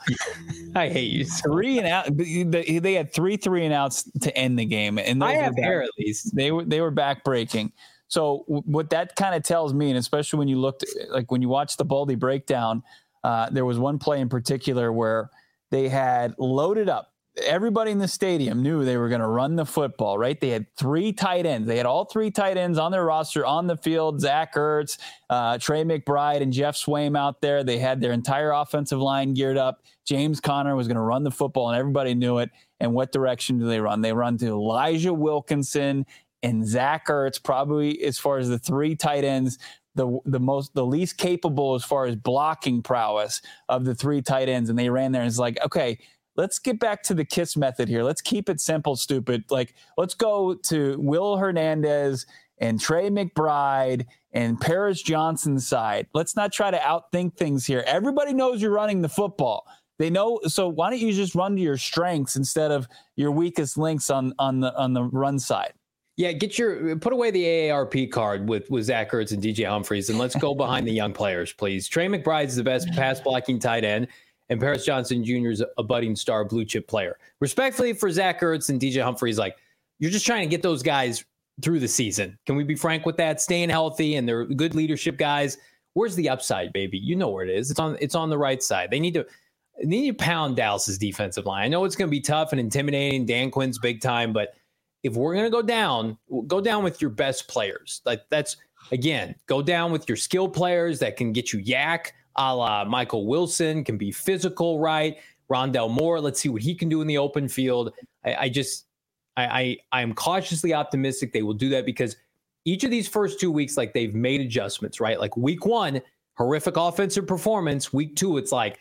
I hate you. Three and out. They, they had three three and outs to end the game, and I have hair at least. They were they were back breaking. So what that kind of tells me, and especially when you looked, like when you watched the Baldy breakdown, uh, there was one play in particular where they had loaded up. Everybody in the stadium knew they were going to run the football, right? They had three tight ends. They had all three tight ends on their roster on the field. Zach Ertz, uh, Trey McBride, and Jeff Swaim out there. They had their entire offensive line geared up. James Conner was going to run the football, and everybody knew it. And what direction do they run? They run to Elijah Wilkinson and Zach Ertz, probably as far as the three tight ends, the the most the least capable as far as blocking prowess of the three tight ends. And they ran there and it's like, okay, let's get back to the KISS method here. Let's keep it simple, stupid. Like, let's go to Will Hernandez and Trey McBride and Paris Johnson's side. Let's not try to outthink things here. Everybody knows you're running the football. They know. So why don't you just run to your strengths instead of your weakest links on on the on the run side? Yeah, get your put away the A A R P card with, with Zach Ertz and D J Humphries, and let's go behind the young players, please. Trey McBride is the best pass blocking tight end, and Paris Johnson Junior is a budding star blue chip player. Respectfully for Zach Ertz and D J Humphries, like you're just trying to get those guys through the season. Can we be frank with that? Staying healthy, and they're good leadership guys. Where's the upside, baby? You know where it is. It's on. It's on the right side. They need to. They need to pound Dallas's defensive line. I know it's going to be tough and intimidating. Dan Quinn's big time, but if we're going to go down, go down with your best players. Like that's, again, go down with your skill players that can get you yak, a la Michael Wilson, can be physical, right? Rondale Moore, let's see what he can do in the open field. I, I just, I, I am cautiously optimistic they will do that because each of these first two weeks, like they've made adjustments, right? Like week one, horrific offensive performance. Week two, it's like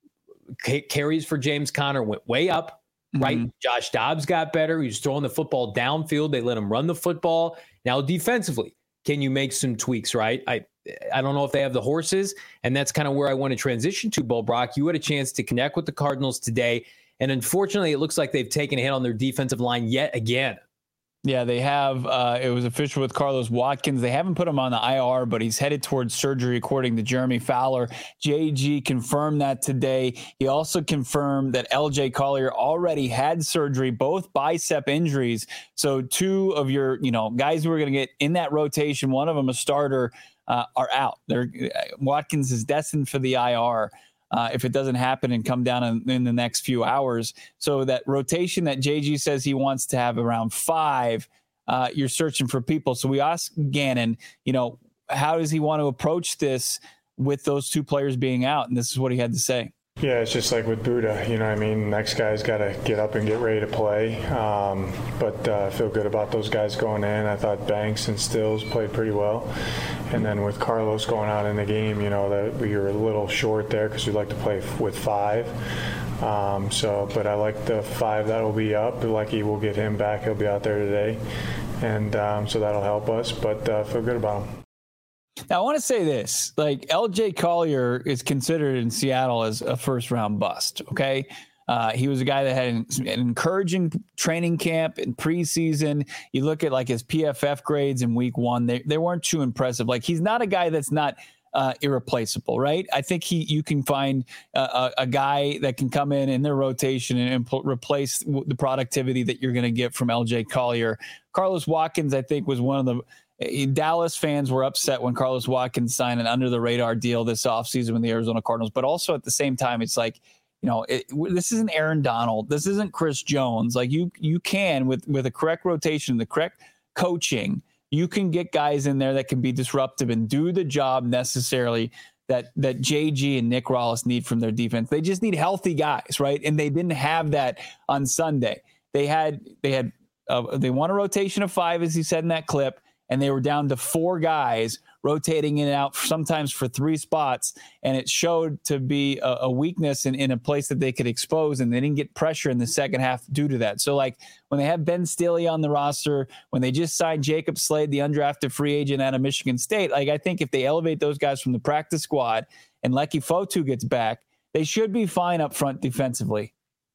c- carries for James Conner went way up. Right. Mm-hmm. Josh Dobbs got better. He was throwing the football downfield. They let him run the football. Now, defensively, can you make some tweaks? Right. I I don't know if they have the horses. And that's kind of where I want to transition to, Bo Brock. You had a chance to connect with the Cardinals today. And unfortunately, it looks like they've taken a hit on their defensive line yet again. Yeah, they have. Uh, it was official with Carlos Watkins. They haven't put him on the I R, but he's headed towards surgery, according to Jeremy Fowler. J G confirmed that today. He also confirmed that L J Collier already had surgery, both bicep injuries. So two of your, you know, guys who are going to get in that rotation, one of them a starter, uh, are out. They're, Watkins is destined for the I R. Uh, if it doesn't happen and come down in, in the next few hours. So that rotation that J G says he wants to have around five, uh, you're searching for people. So we asked Gannon, you know, how does he want to approach this with those two players being out? And this is what he had to say. Yeah, it's just like with Buddha, you know what I mean? Next guy's got to get up and get ready to play. Um, but uh, I feel good about those guys going in. I thought Banks and Stills played pretty well. And then with Carlos going out in the game, you know, that we were a little short there because we like to play f- with five. Um, so, but I like the five that will be up. Lucky we'll get him back. He'll be out there today. And um, so that'll help us, but uh, feel good about him. Now, I want to say this, like L J Collier is considered in Seattle as a first round bust. Okay. Uh, he was a guy that had an, an encouraging training camp and preseason. You look at like his P F F grades in week one, they, they weren't too impressive. Like he's not a guy that's not uh, irreplaceable, right? I think he, you can find a, a, a guy that can come in in their rotation and, and pl- replace the productivity that you're going to get from L J Collier. Carlos Watkins, I think, was one of the Dallas fans were upset when Carlos Watkins signed an under the radar deal this offseason with the Arizona Cardinals. But also at the same time, it's like, you know, it, this isn't Aaron Donald. This isn't Chris Jones. Like you, you can with, with a correct rotation, the correct coaching, you can get guys in there that can be disruptive and do the job necessarily that, that J G and Nick Rallis need from their defense. They just need healthy guys, right? And they didn't have that on Sunday. They had, they had, uh, they won a rotation of five, as he said in that clip. And they were down to four guys rotating in and out sometimes for three spots. And it showed to be a, a weakness in, in a place that they could expose. And they didn't get pressure in the second half due to that. So like when they have Ben Stille on the roster, when they just signed Jacob Slade, the undrafted free agent out of Michigan State, like I think if they elevate those guys from the practice squad and Lecky Fotu gets back, they should be fine up front defensively.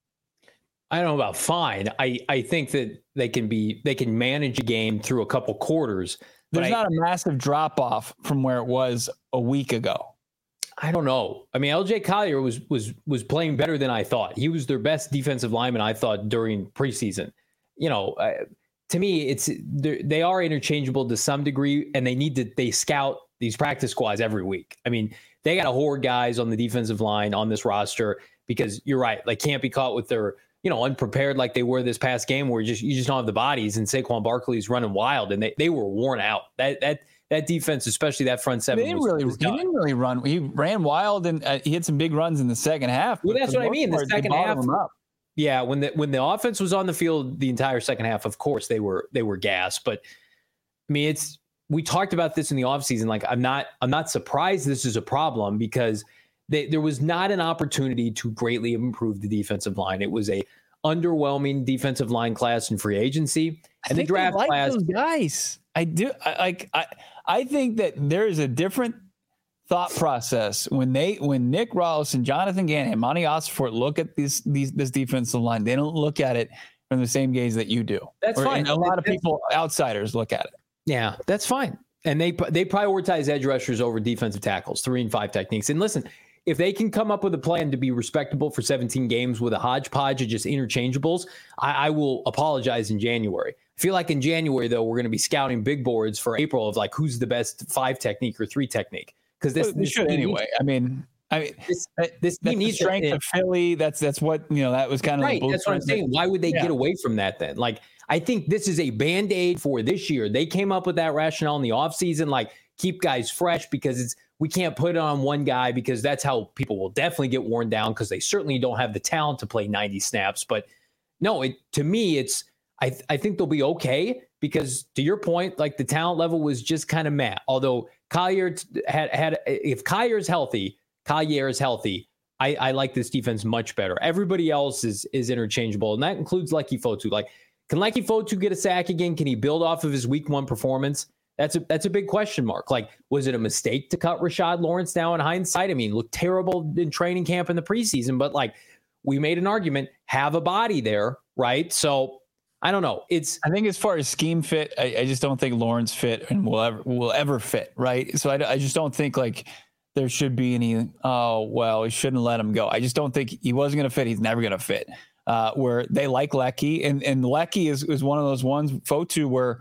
I don't know about fine. I, I think that they can be they can manage a game through a couple quarters. There's I, not a massive drop off from where it was a week ago. I don't know. I mean, L J Collier was was was playing better than I thought. He was their best defensive lineman, I thought, during preseason. You know, uh, to me, it's they are interchangeable to some degree, and they need to they scout these practice squads every week. I mean, they got to hoard guys on the defensive line on this roster because you're right, they can't be caught with their you know, unprepared like they were this past game where you just you just don't have the bodies, and Saquon Barkley's running wild, and they, they were worn out. That that that defense, especially that front seven, they didn't was, really was he didn't really run. He ran wild, and uh, he had some big runs in the second half. Well, that's what I mean. The second half, up. yeah, when the when the offense was on the field, the entire second half, of course they were they were gassed. But I mean, it's we talked about this in the offseason. Like I'm not I'm not surprised this is a problem because they, there was not an opportunity to greatly improve the defensive line. It was a underwhelming defensive line class in free agency and the draft like class. Those guys, I do. I like. I I think that there is a different thought process when they when Nick Rallis and Jonathan Gannon and Monty Ossenfort look at these these this defensive line. They don't look at it from the same gaze that you do. That's or, fine. And a lot of that's, people, outsiders, look at it. Yeah, that's fine. And they they prioritize edge rushers over defensive tackles, three and five techniques. And listen, if they can come up with a plan to be respectable for seventeen games with a hodgepodge of just interchangeables, I, I will apologize in January. I feel like in January, though, we're going to be scouting big boards for April of like who's the best five technique or three technique. Because this, well, this should anyway. Needs, I mean, I mean, this, this team needs the strength it. of Philly. That's that's what you know. That was kind of right. The that's what I'm saying. Why would they yeah. get away from that then? Like, I think this is a Band-Aid for this year. They came up with that rationale in the offseason, like keep guys fresh because it's we can't put it on one guy because that's how people will definitely get worn down because they certainly don't have the talent to play ninety snaps. But no, it to me, it's I th- I think they'll be okay because to your point, like the talent level was just kind of meh. Although Collier had had if Collier is healthy, Collier is healthy. I, I like this defense much better. Everybody else is is interchangeable, and that includes Lecky Fotu. Like, can Lecky Fotu get a sack again? Can he build off of his week one performance? That's a that's a big question mark. Like, was it a mistake to cut Rashad Lawrence now in hindsight? I mean, looked terrible in training camp in the preseason, but like we made an argument, have a body there, right? So I don't know. It's I think as far as scheme fit, I, I just don't think Lawrence fit and will ever will ever fit, right? So I, I just don't think like there should be any, oh, well, we shouldn't let him go. I just don't think he wasn't going to fit. He's never going to fit. Uh, where they like Lecky, and, and Lecky is, is one of those ones, Fotu, where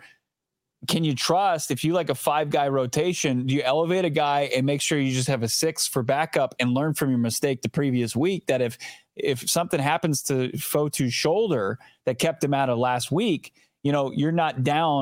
can you trust if you like a five-guy rotation, do you elevate a guy and make sure you just have a six for backup and learn from your mistake the previous week that if if something happens to Fotu's shoulder that kept him out of last week, you know, you're not down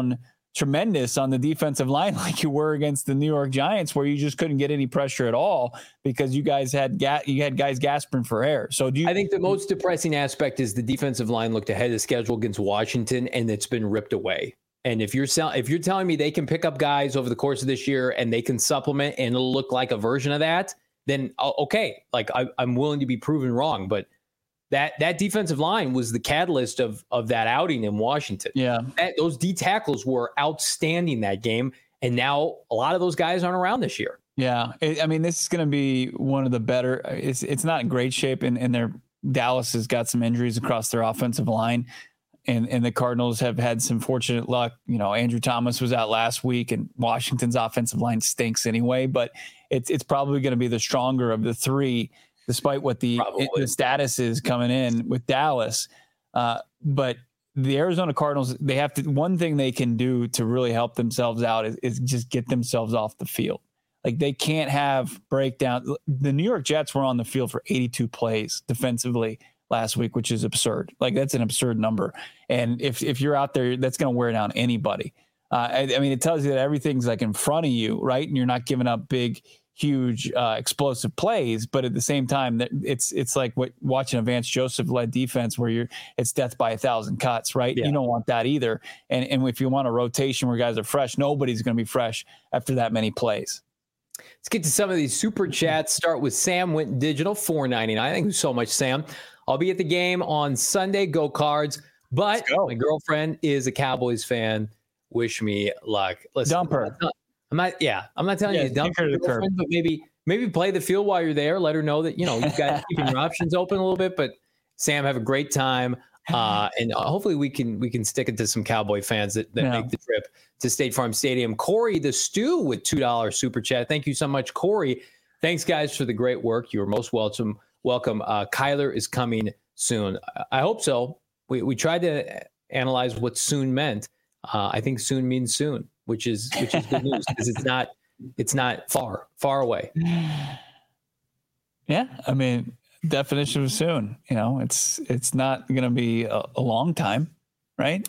tremendous on the defensive line like you were against the New York Giants, where you just couldn't get any pressure at all because you guys had ga- you had guys gasping for air. So do you? I think the most depressing aspect is the defensive line looked ahead of schedule against Washington, and it's been ripped away. And if you're sell- if you're telling me they can pick up guys over the course of this year and they can supplement and it'll look like a version of that, then okay, like I, I'm willing to be proven wrong. But that that defensive line was the catalyst of of that outing in Washington. Yeah, that, those D tackles were outstanding that game, and now a lot of those guys aren't around this year. Yeah, it, I mean, this is going to be one of the better. It's it's not in great shape, and and their Dallas has got some injuries across their offensive line, and and the Cardinals have had some fortunate luck. You know, Andrew Thomas was out last week, and Washington's offensive line stinks anyway. But it's it's probably going to be the stronger of the three, despite what the, the status is coming in with Dallas. Uh, but the Arizona Cardinals, they have to, one thing they can do to really help themselves out is, is just get themselves off the field. Like they can't have breakdown. The New York Jets were on the field for eighty-two plays defensively last week, which is absurd. Like that's an absurd number. And if, if you're out there, that's going to wear down anybody. Uh, I, I mean, it tells you that everything's like in front of you, right? And you're not giving up big, huge uh, explosive plays, but at the same time, that it's it's like what watching a Vance Joseph led defense where you're it's death by a thousand cuts, right? Yeah. You don't want that either. And and if you want a rotation where guys are fresh, nobody's going to be fresh after that many plays. Let's get to some of these super chats. Start with Sam Went Digital, four ninety-nine. Thank you so much, Sam. I'll be at the game on Sunday. Go Cards! But my girlfriend is a Cowboys fan. Wish me luck. Listen, dump her. I'm not. Yeah, I'm not telling yeah, you to dump her to the curb, but maybe maybe play the field while you're there. Let her know that you know you've got keeping your options open a little bit. But Sam, have a great time, uh, and hopefully we can we can stick it to some Cowboy fans that, that yeah. make the trip to State Farm Stadium. Corey the Stew with two dollars super chat. Thank you so much, Corey. Thanks, guys, for the great work. You are most welcome. Welcome. Uh, Kyler is coming soon. I hope so. We we tried to analyze what soon meant. Uh, I think soon means soon, which is which is good news because it's not it's not far far away. Yeah, I mean, definition of soon. You know, it's it's not going to be a, a long time, right?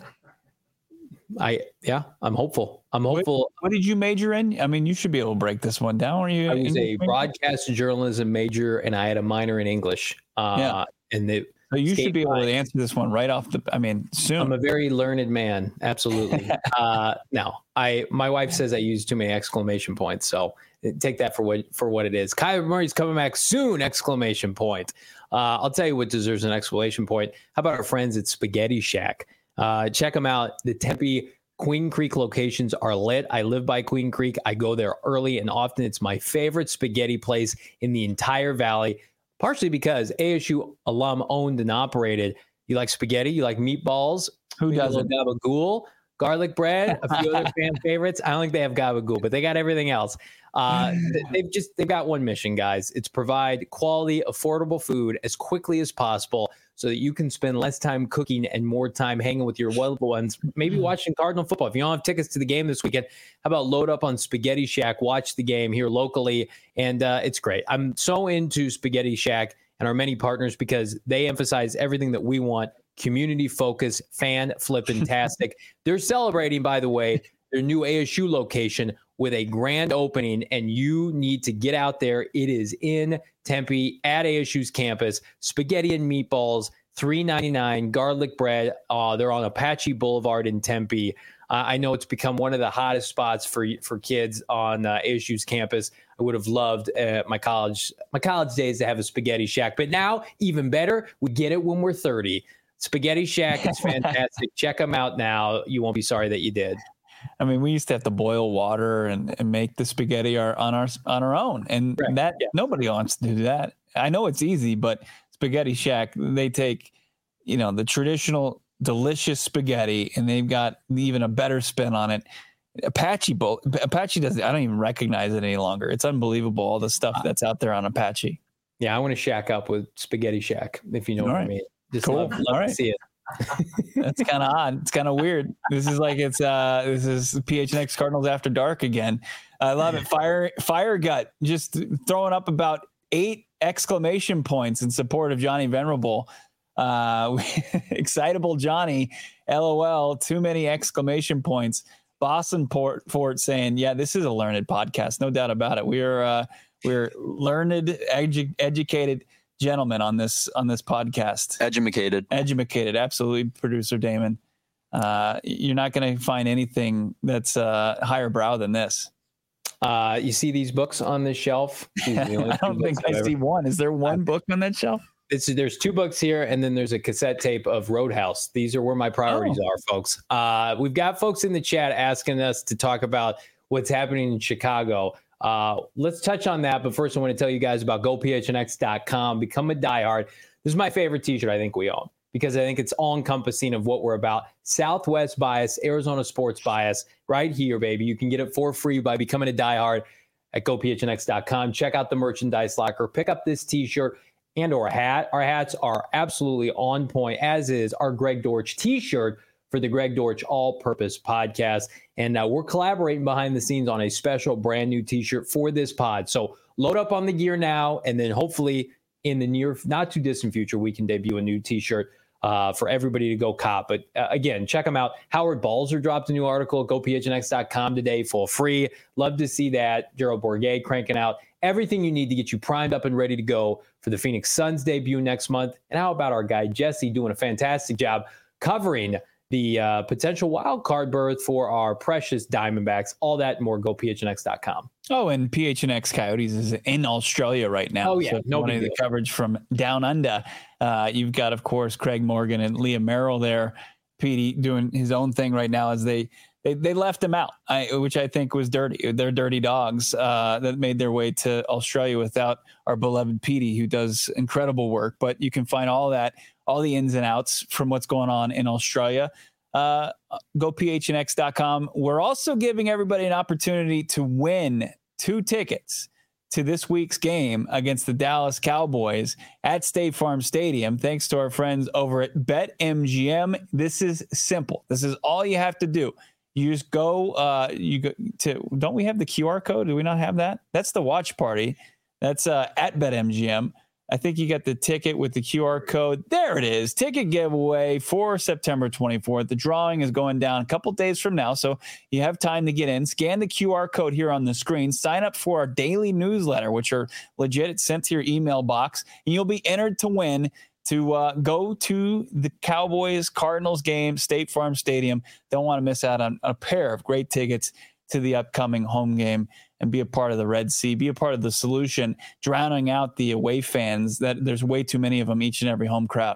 I yeah, I'm hopeful. I'm hopeful. What, what did you major in? I mean, you should be able to break this one down. Were you? I was a major? broadcast journalism major, and I had a minor in English. Uh, yeah, and the. So you should be able to answer this one right off the. I mean, soon. I'm a very learned man. Absolutely. uh, no, I. My wife says I use too many exclamation points, so take that for what for what it is. Kyler Murray's coming back soon! Exclamation point. Uh, I'll tell you what deserves an exclamation point. How about our friends at Spaghetti Shack? Uh, check them out. The Tempe Queen Creek locations are lit. I live by Queen Creek. I go there early and often. It's my favorite spaghetti place in the entire valley. Partially because A S U alum owned and operated. You like spaghetti? You like meatballs? Who doesn't? Gabagool, garlic bread, a few other fan favorites. I don't think they have gabagool, but they got everything else. Uh, they've just they've got one mission, guys. It's provide quality, affordable food as quickly as possible so that you can spend less time cooking and more time hanging with your loved ones, maybe watching Cardinal football. If you don't have tickets to the game this weekend, how about load up on Spaghetti Shack, watch the game here locally, and uh, it's great. I'm so into Spaghetti Shack and our many partners because they emphasize everything that we want, community focus, fan flippin-tastic. They're celebrating, by the way, their new A S U location with a grand opening, and you need to get out there. It is in Tempe at A S U's campus. Spaghetti and meatballs, three ninety-nine, garlic bread. Uh, they're on Apache Boulevard in Tempe. Uh, I know it's become one of the hottest spots for for kids on uh, A S U's campus. I would have loved uh, my college my college days to have a Spaghetti Shack, but now even better, we get it when we're thirty. Spaghetti Shack is fantastic. Check them out now. You won't be sorry that you did. I mean, we used to have to boil water and, and make the spaghetti our, on our on our own, and right. that yeah. nobody wants to do that. I know it's easy, but Spaghetti Shack, they take, you know, the traditional delicious spaghetti, and they've got even a better spin on it. Apache Bowl, Apache does. I don't even recognize it any longer. It's unbelievable all the stuff that's out there on Apache. Yeah, I want to shack up with Spaghetti Shack, if you know all what right. I mean. Just cool. love, love all right. to see it. That's kind of odd. It's kind of weird. This is like it's uh this is P H N X Cardinals After Dark again. I love it. Fire Fire Gut just throwing up about eight exclamation points in support of Johnny Venerable. Uh, excitable Johnny, LOL. Too many exclamation points. Boston Port Fort saying, yeah, this is a learned podcast. No doubt about it. We're, uh, we're learned, edu- educated gentlemen on this, on this podcast. Educated. Educated. Absolutely. Producer Damon. Uh, you're not going to find anything that's uh, higher brow than this. Uh, you see these books on this shelf? I don't think I see one. Is there one book on that shelf? It's, there's two books here, and then there's a cassette tape of Roadhouse. These are where my priorities oh. are, folks. Uh, we've got folks in the chat asking us to talk about what's happening in Chicago. Uh, let's touch on that. But first, I want to tell you guys about go p h n x dot com. Become a diehard. This is my favorite T-shirt I think we own, because I think it's all-encompassing of what we're about. Southwest bias, Arizona sports bias, right here, baby. You can get it for free by becoming a diehard at go p h n x dot com. Check out the merchandise locker. Pick up this T-shirt and or a hat. Our hats are absolutely on point, as is our Greg Dortch T-shirt for the Greg Dortch All-Purpose Podcast. And uh, we're collaborating behind the scenes on a special brand new T-shirt for this pod. So load up on the gear now, and then hopefully in the near, not too distant future, we can debut a new T-shirt uh, for everybody to go cop. But uh, again, check them out. Howard Balzer dropped a new article at go p h n x dot com today for free. Love to see that. Gerald Bourguet cranking out everything you need to get you primed up and ready to go for the Phoenix Suns debut next month. And how about our guy Jesse doing a fantastic job covering the uh, potential wild card berth for our precious Diamondbacks? All that and more, go p h n x dot com. Oh, and P H N X Coyotes is in Australia right now. Oh, yeah. So no the coverage from down under. Uh, you've got, of course, Craig Morgan and Leah Merrill there. Petey doing his own thing right now as they They they left him out, I, which I think was dirty. They're dirty dogs uh, that made their way to Australia without our beloved Petey, who does incredible work. But you can find all that, all the ins and outs from what's going on in Australia. Uh, go p h n x dot com. We're also giving everybody an opportunity to win two tickets to this week's game against the Dallas Cowboys at State Farm Stadium, thanks to our friends over at BetMGM. This is simple. This is all you have to do. You just go, uh, you go to, don't we have the Q R code? Do we not have that? That's the watch party. That's uh, at BetMGM. I think you got the ticket with the Q R code. There it is. Ticket giveaway for September twenty-fourth. The drawing is going down a couple days from now, so you have time to get in. Scan the Q R code here on the screen. Sign up for our daily newsletter, which are legit. It's sent to your email box, and you'll be entered to win to uh, go to the Cowboys Cardinals game, State Farm Stadium. Don't want to miss out on a pair of great tickets to the upcoming home game and be a part of the Red Sea, be a part of the solution, drowning out the away fans. That there's way too many of them each and every home crowd.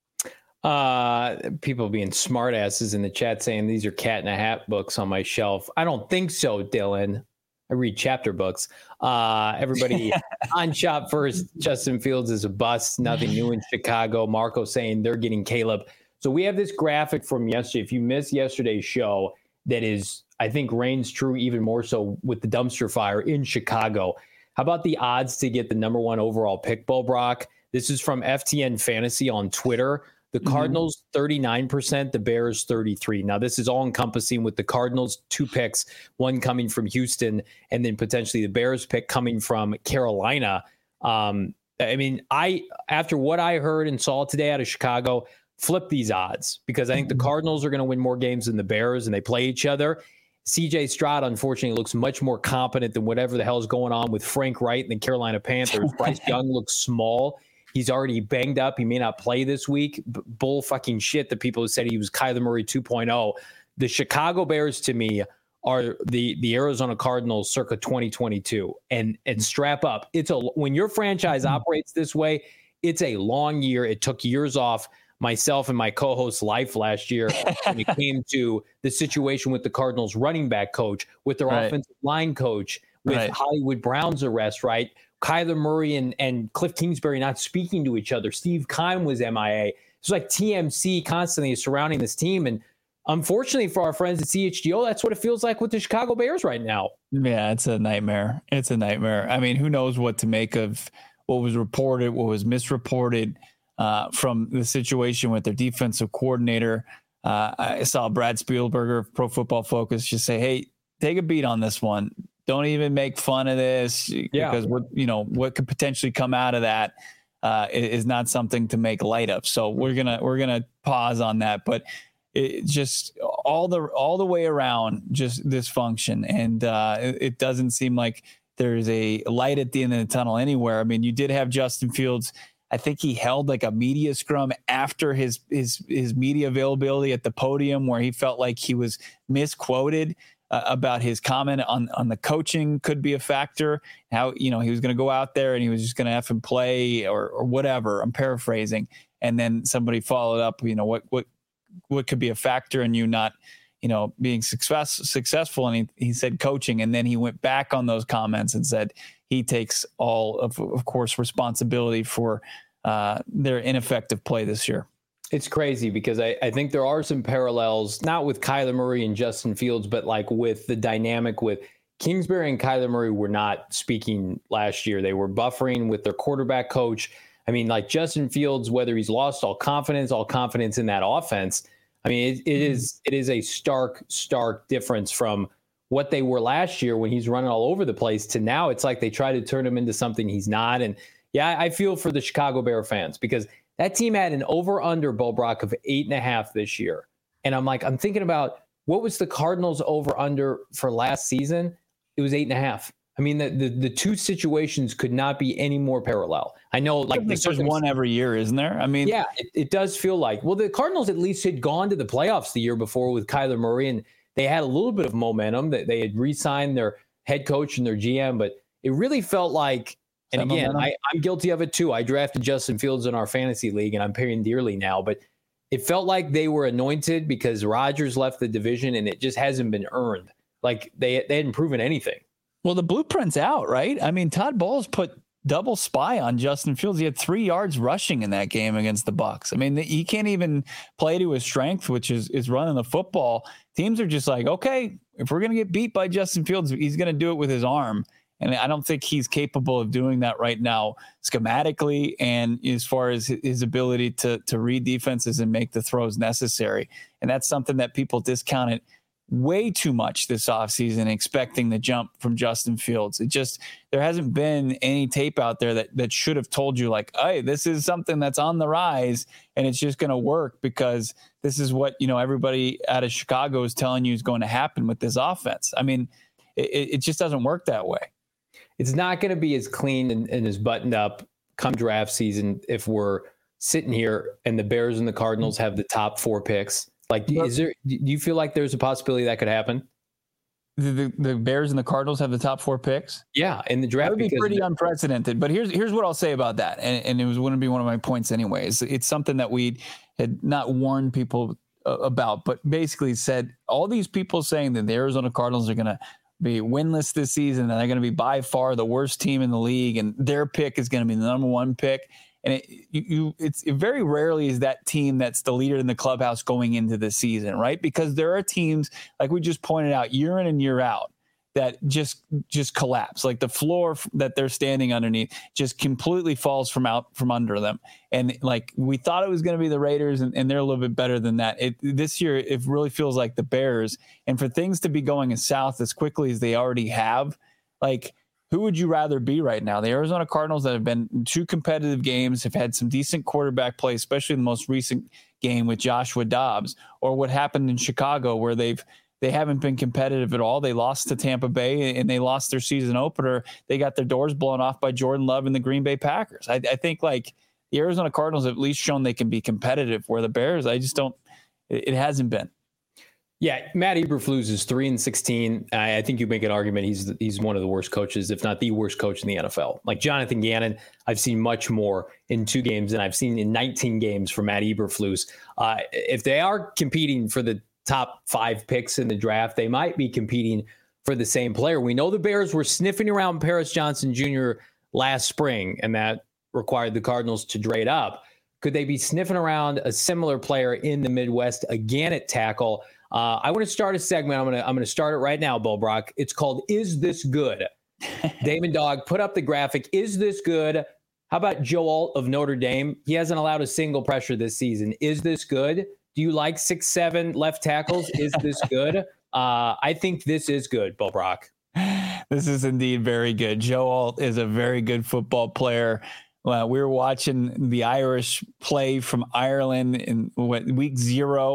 Uh, people being smart asses in the chat saying these are Cat in a Hat books on my shelf. I don't think so, Dylan. I read chapter books. Uh, everybody on Shop First, Justin Fields is a bust. Nothing new in Chicago. Marco saying they're getting Caleb. So we have this graphic from yesterday. If you missed yesterday's show, that is, I think, reigns true even more so with the dumpster fire in Chicago. How about the odds to get the number one overall pick, Bo Brock? This is from F T N Fantasy on Twitter. The Cardinals, mm-hmm. thirty-nine percent, the Bears, thirty-three. Now, this is all encompassing with the Cardinals, two picks, one coming from Houston, and then potentially the Bears pick coming from Carolina. Um, I mean, I after what I heard and saw today out of Chicago, flip these odds because I think the Cardinals are going to win more games than the Bears, and they play each other. C J Stroud, unfortunately, looks much more competent than whatever the hell is going on with Frank Wright and the Carolina Panthers. Bryce Young looks small. He's already banged up. He may not play this week. B- bull fucking shit. The people who said he was Kyler Murray two point oh. The Chicago Bears, to me, are the the Arizona Cardinals circa twenty twenty-two. And and strap up. It's a when your franchise operates this way, it's a long year. It took years off myself and my co-host's life last year when it came to the situation with the Cardinals running back coach, with their right. offensive line coach, with right. Hollywood Brown's arrest, right? Kyler Murray and, and Cliff Kingsbury not speaking to each other. Steve Keim was M I A. It's like T M C constantly surrounding this team. And unfortunately for our friends at C H G O, that's what it feels like with the Chicago Bears right now. Yeah, it's a nightmare. It's a nightmare. I mean, who knows what to make of what was reported, what was misreported uh, from the situation with their defensive coordinator. Uh, I saw Brad Spielberger of Pro Football Focus just say, hey, take a beat on this one. Don't even make fun of this yeah. because what you know what could potentially come out of that uh, is not something to make light of. So we're gonna we're gonna pause on that. But it just all the all the way around, just dysfunction, and uh, it, it doesn't seem like there's a light at the end of the tunnel anywhere. I mean, you did have Justin Fields. I think he held like a media scrum after his his his media availability at the podium, where he felt like he was misquoted uh, about his comment on on the coaching could be a factor. How, you know, he was going to go out there and he was just going to have him play or or whatever. I'm paraphrasing, and then somebody followed up. You know, what what what could be a factor in you not, you know, being success, successful. And he, he said coaching. And then he went back on those comments and said he takes all of, of course, responsibility for uh, their ineffective play this year. It's crazy because I, I think there are some parallels, not with Kyler Murray and Justin Fields, but like with the dynamic with Kingsbury and Kyler Murray were not speaking last year. They were buffering with their quarterback coach. I mean, like Justin Fields, whether he's lost all confidence, all confidence in that offense, I mean, it, it is it is a stark, stark difference from what they were last year when he's running all over the place to now. It's like they try to turn him into something he's not. And yeah, I feel for the Chicago Bear fans because that team had an over-under, Bo Brock, of eight and a half this year. And I'm like, I'm thinking about what was the Cardinals over-under for last season? It was eight and a half. I mean, the, the the two situations could not be any more parallel. I know, like, there's one every year, isn't there? I mean, yeah, it, it does feel like. Well, the Cardinals at least had gone to the playoffs the year before with Kyler Murray, and they had a little bit of momentum. That they had re-signed their head coach and their G M, but it really felt like. And again, I, I'm guilty of it too. I drafted Justin Fields in our fantasy league, and I'm paying dearly now. But it felt like they were anointed because Rodgers left the division, and it just hasn't been earned. Like they they hadn't proven anything. Well, the blueprint's out, right? I mean, Todd Bowles put double spy on Justin Fields. He had three yards rushing in that game against the Bucs. I mean, he can't even play to his strength, which is is running the football. Teams are just like, okay, if we're going to get beat by Justin Fields, he's going to do it with his arm. And I don't think he's capable of doing that right now schematically and as far as his ability to to read defenses and make the throws necessary. And that's something that people discounted way too much this offseason, expecting the jump from Justin Fields. It just, there hasn't been any tape out there that that should have told you like, hey, this is something that's on the rise and it's just going to work because this is what, you know, everybody out of Chicago is telling you is going to happen with this offense. I mean, it, it just doesn't work that way. It's not going to be as clean and, and as buttoned up come draft season if we're sitting here and the Bears and the Cardinals have the top four picks. Like, is there? Do you feel like there's a possibility that could happen? The, the, the Bears and the Cardinals have the top four picks? Yeah, in the draft. That would be pretty unprecedented. But here's here's what I'll say about that, and, and it was going to be one of my points anyways. It's something that we had not warned people uh, about, but basically said all these people saying that the Arizona Cardinals are going to be winless this season and they're going to be by far the worst team in the league, and their pick is going to be the number one pick. And it, you, you, it's it very rarely is that team that's the leader in the clubhouse going into the season, right? Because there are teams, like we just pointed out, year in and year out, that just just collapse. Like the floor that they're standing underneath just completely falls from out from under them. And like we thought it was going to be the Raiders, and, and they're a little bit better than that. It, this year, it really feels like the Bears. And for things to be going as south as quickly as they already have, like, who would you rather be right now? The Arizona Cardinals that have been in two competitive games, have had some decent quarterback play, especially in the most recent game with Joshua Dobbs, or what happened in Chicago where they've they haven't been competitive at all. They lost to Tampa Bay and they lost their season opener. They got their doors blown off by Jordan Love and the Green Bay Packers. I, I think like the Arizona Cardinals have at least shown they can be competitive, where the Bears, I just don't, it, it hasn't been. Yeah, Matt Eberflus is three and sixteen. I, I think you make an argument he's he's one of the worst coaches, if not the worst coach in the N F L. Like Jonathan Gannon, I've seen much more in two games than I've seen in nineteen games from Matt Eberflus. Uh, if they are competing for the top five picks in the draft, they might be competing for the same player. We know the Bears were sniffing around Paris Johnson Junior last spring, and that required the Cardinals to trade up. Could they be sniffing around a similar player in the Midwest again at tackle? Uh, I want to start a segment. I'm going to I'm going to start it right now, Bo Brock. It's called Is This Good? Damon Dog, put up the graphic. Is this good? How about Joe Alt of Notre Dame? He hasn't allowed a single pressure this season. Is this good? Do you like six seven left tackles? Is this good? Uh, I think this is good, Bo Brock. This is indeed very good. Joe Alt is a very good football player. Uh, we were watching the Irish play from Ireland in what, week zero.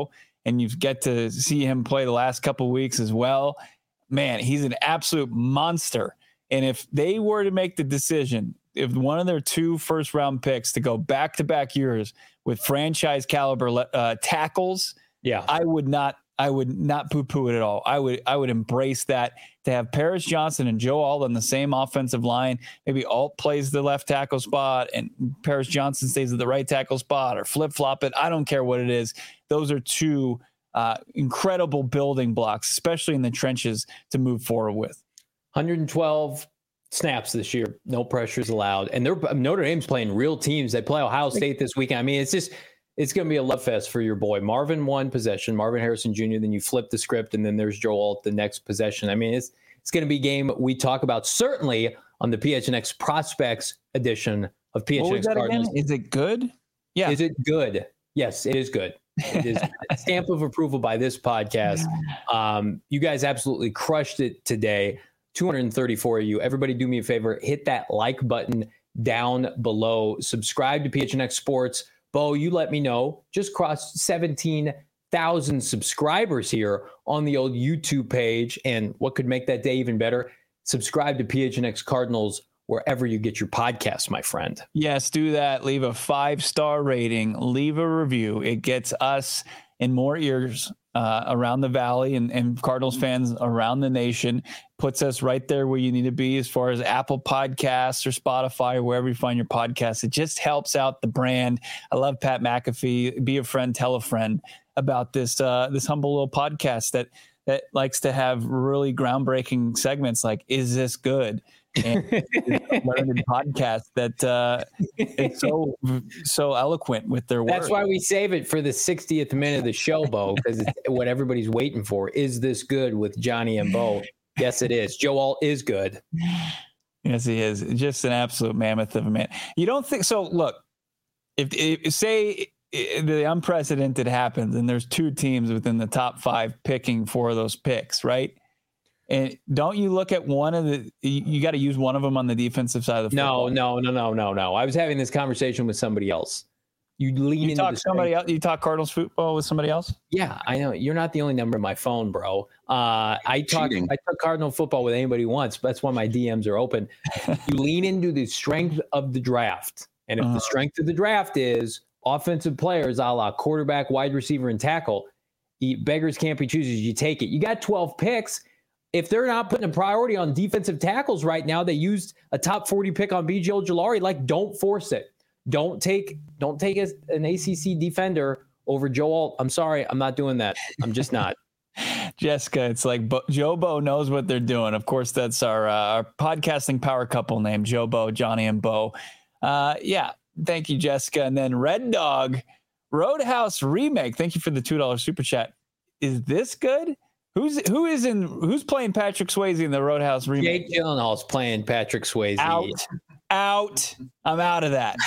and you get to see him play the last couple of weeks as well, man, he's an absolute monster. And if they were to make the decision, if one of their two first round picks to go back to back years with franchise caliber uh, tackles, yeah, I would not, I would not poo poo it at all. I would, I would embrace that. To have Paris Johnson and Joe Alt on the same offensive line, maybe Alt plays the left tackle spot and Paris Johnson stays at the right tackle spot, or flip flop it. I don't care what it is. Those are two uh, incredible building blocks, especially in the trenches, to move forward with. one hundred twelve snaps this year, no pressures allowed, and they're Notre Dame's playing real teams. They play Ohio State this weekend. I mean, it's just it's going to be a love fest for your boy. Marvin one possession, Marvin Harrison Junior Then you flip the script, and then there's Joe Alt the next possession. I mean, it's it's going to be a game we talk about certainly on the P H N X Prospects edition of P H N X Cardinals. Again? Is it good? Yeah. Is it good? Yes, it is good. It is a stamp of approval by this podcast. Um, you guys absolutely crushed it today. two hundred thirty-four of you. Everybody do me a favor. Hit that like button down below. Subscribe to P H N X Sports. Bo, you let me know. Just crossed seventeen thousand subscribers here on the old YouTube page. And what could make that day even better? Subscribe to P H N X Cardinals wherever you get your podcasts, my friend. Yes, do that. Leave a five-star rating. Leave a review. It gets us in more ears uh, around the valley and, and Cardinals fans around the nation. Puts us right there where you need to be as far as Apple Podcasts or Spotify or wherever you find your podcasts. It just helps out the brand. I love Pat McAfee. Be a friend, tell a friend about this uh, this humble little podcast that that likes to have really groundbreaking segments like, is this good? And learned podcast that uh, it's so so eloquent with their words. That's why we save it for the sixtieth minute of the show, Bo, because it's what everybody's waiting for. Is this good with Johnny and Bo? Yes, it is. Joe Alt is good. Yes, he is. Just an absolute mammoth of a man. You don't think so? Look, if, if say the unprecedented happens and there's two teams within the top five picking for those picks, right? And don't you look at one of the, you, you got to use one of them on the defensive side of the football. No, no, no, no, no, no. I was having this conversation with somebody else. You lean you into talk the somebody else. You talk Cardinals football with somebody else. Yeah, I know. You're not the only number in my phone, bro. Uh, I talk. Cheating. I talk Cardinal football with anybody who wants. But that's why my D Ms are open. You lean into the strength of the draft, and if Uh-huh. the strength of the draft is offensive players, a la quarterback, wide receiver, and tackle, you, beggars can't be choosers. You take it. You got twelve picks. If they're not putting a priority on defensive tackles right now, they used a top forty pick on B J Ojulari. Like, don't force it. Don't take don't take a, an A C C defender over Joe Alt. I'm sorry, I'm not doing that. I'm just not. Jessica, it's like Bo, Joe Bo knows what they're doing. Of course, that's our, uh, our podcasting power couple name, Joe Bo, Johnny and Bo. Uh, yeah, thank you, Jessica. And then Red Dog Roadhouse remake. Thank you for the two dollars super chat. Is this good? Who's who is in who's playing Patrick Swayze in the Roadhouse remake? Jake Gyllenhaal's playing Patrick Swayze. Out, out. I'm out of that.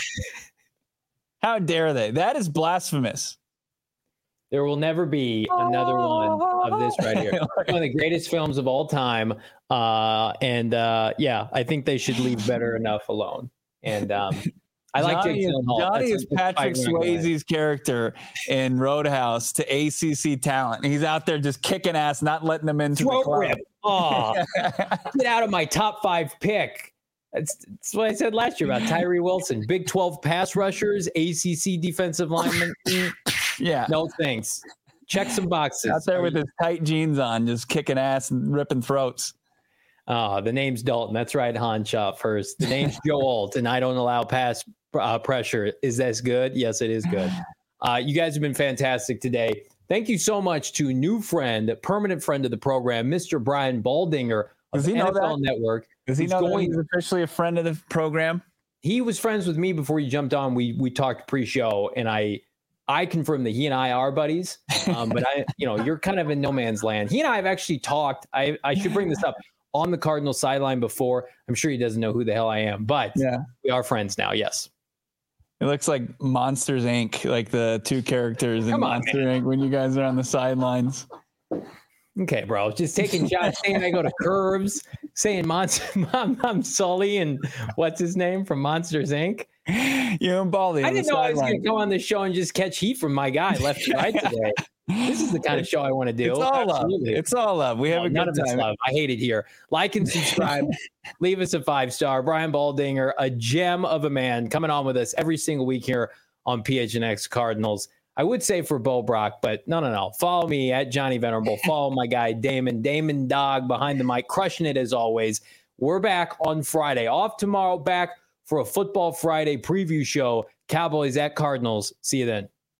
How dare they? That is blasphemous. There will never be another one of this right here. One of the greatest films of all time. Uh, and uh, yeah, I think they should leave Better Enough alone. And um, I like Johnny, Jake Gyllenhaal. Johnny That's is a- Patrick that's my guy. Swayze's character in Roadhouse to A C C talent. He's out there just kicking ass, not letting them into Throat the club. rip. Oh, get out of my top five pick. That's, that's what I said last year about Tyree Wilson. Big twelve pass rushers, A C C defensive lineman. Mm, Yeah. no thanks. Check some boxes. Out there with his tight jeans on, just kicking ass and ripping throats. Oh, the name's Dalton. That's right, Honshaw first. The name's Joe Alt, and I don't allow pass uh, pressure. Is this good? Yes, it is good. Uh, you guys have been fantastic today. Thank you so much to new friend, permanent friend of the program, Mister Brian Baldinger of Does he know N F L that? Network. Does he who's know that going- he's officially a friend of the program? He was friends with me before you jumped on. We we talked pre-show, and I I confirmed that he and I are buddies. Um, but I, you know, you're kind of in no man's land. He and I have actually talked. I I should bring this up on the Cardinals sideline before. I'm sure he doesn't know who the hell I am, but Yeah. we are friends now. Yes. It looks like Monsters Incorporated, like the two characters in Come on, Monster Incorporated when you guys are on the sidelines. Okay, bro. Just taking shots, saying I go to Curves, saying Monster, I'm, I'm Sully, and what's his name from Monsters Incorporated. You and Baldy. I on the didn't know I was going sideline. to come on the show and just catch heat from my guy left and right today. This is the kind of show I want to do. It's all Absolutely. love. It's all love. We have no, a none good of it's time. love. I hate it here. Like and subscribe. Leave us a five star. Brian Baldinger, a gem of a man, coming on with us every single week here on P H N X Cardinals. I would say for Bo Brock, but no, no, no. Follow me at Johnny Venerable. Follow my guy Damon. Damon Dog behind the mic, crushing it as always. We're back on Friday. Off tomorrow, back for a Football Friday preview show. Cowboys at Cardinals. See you then.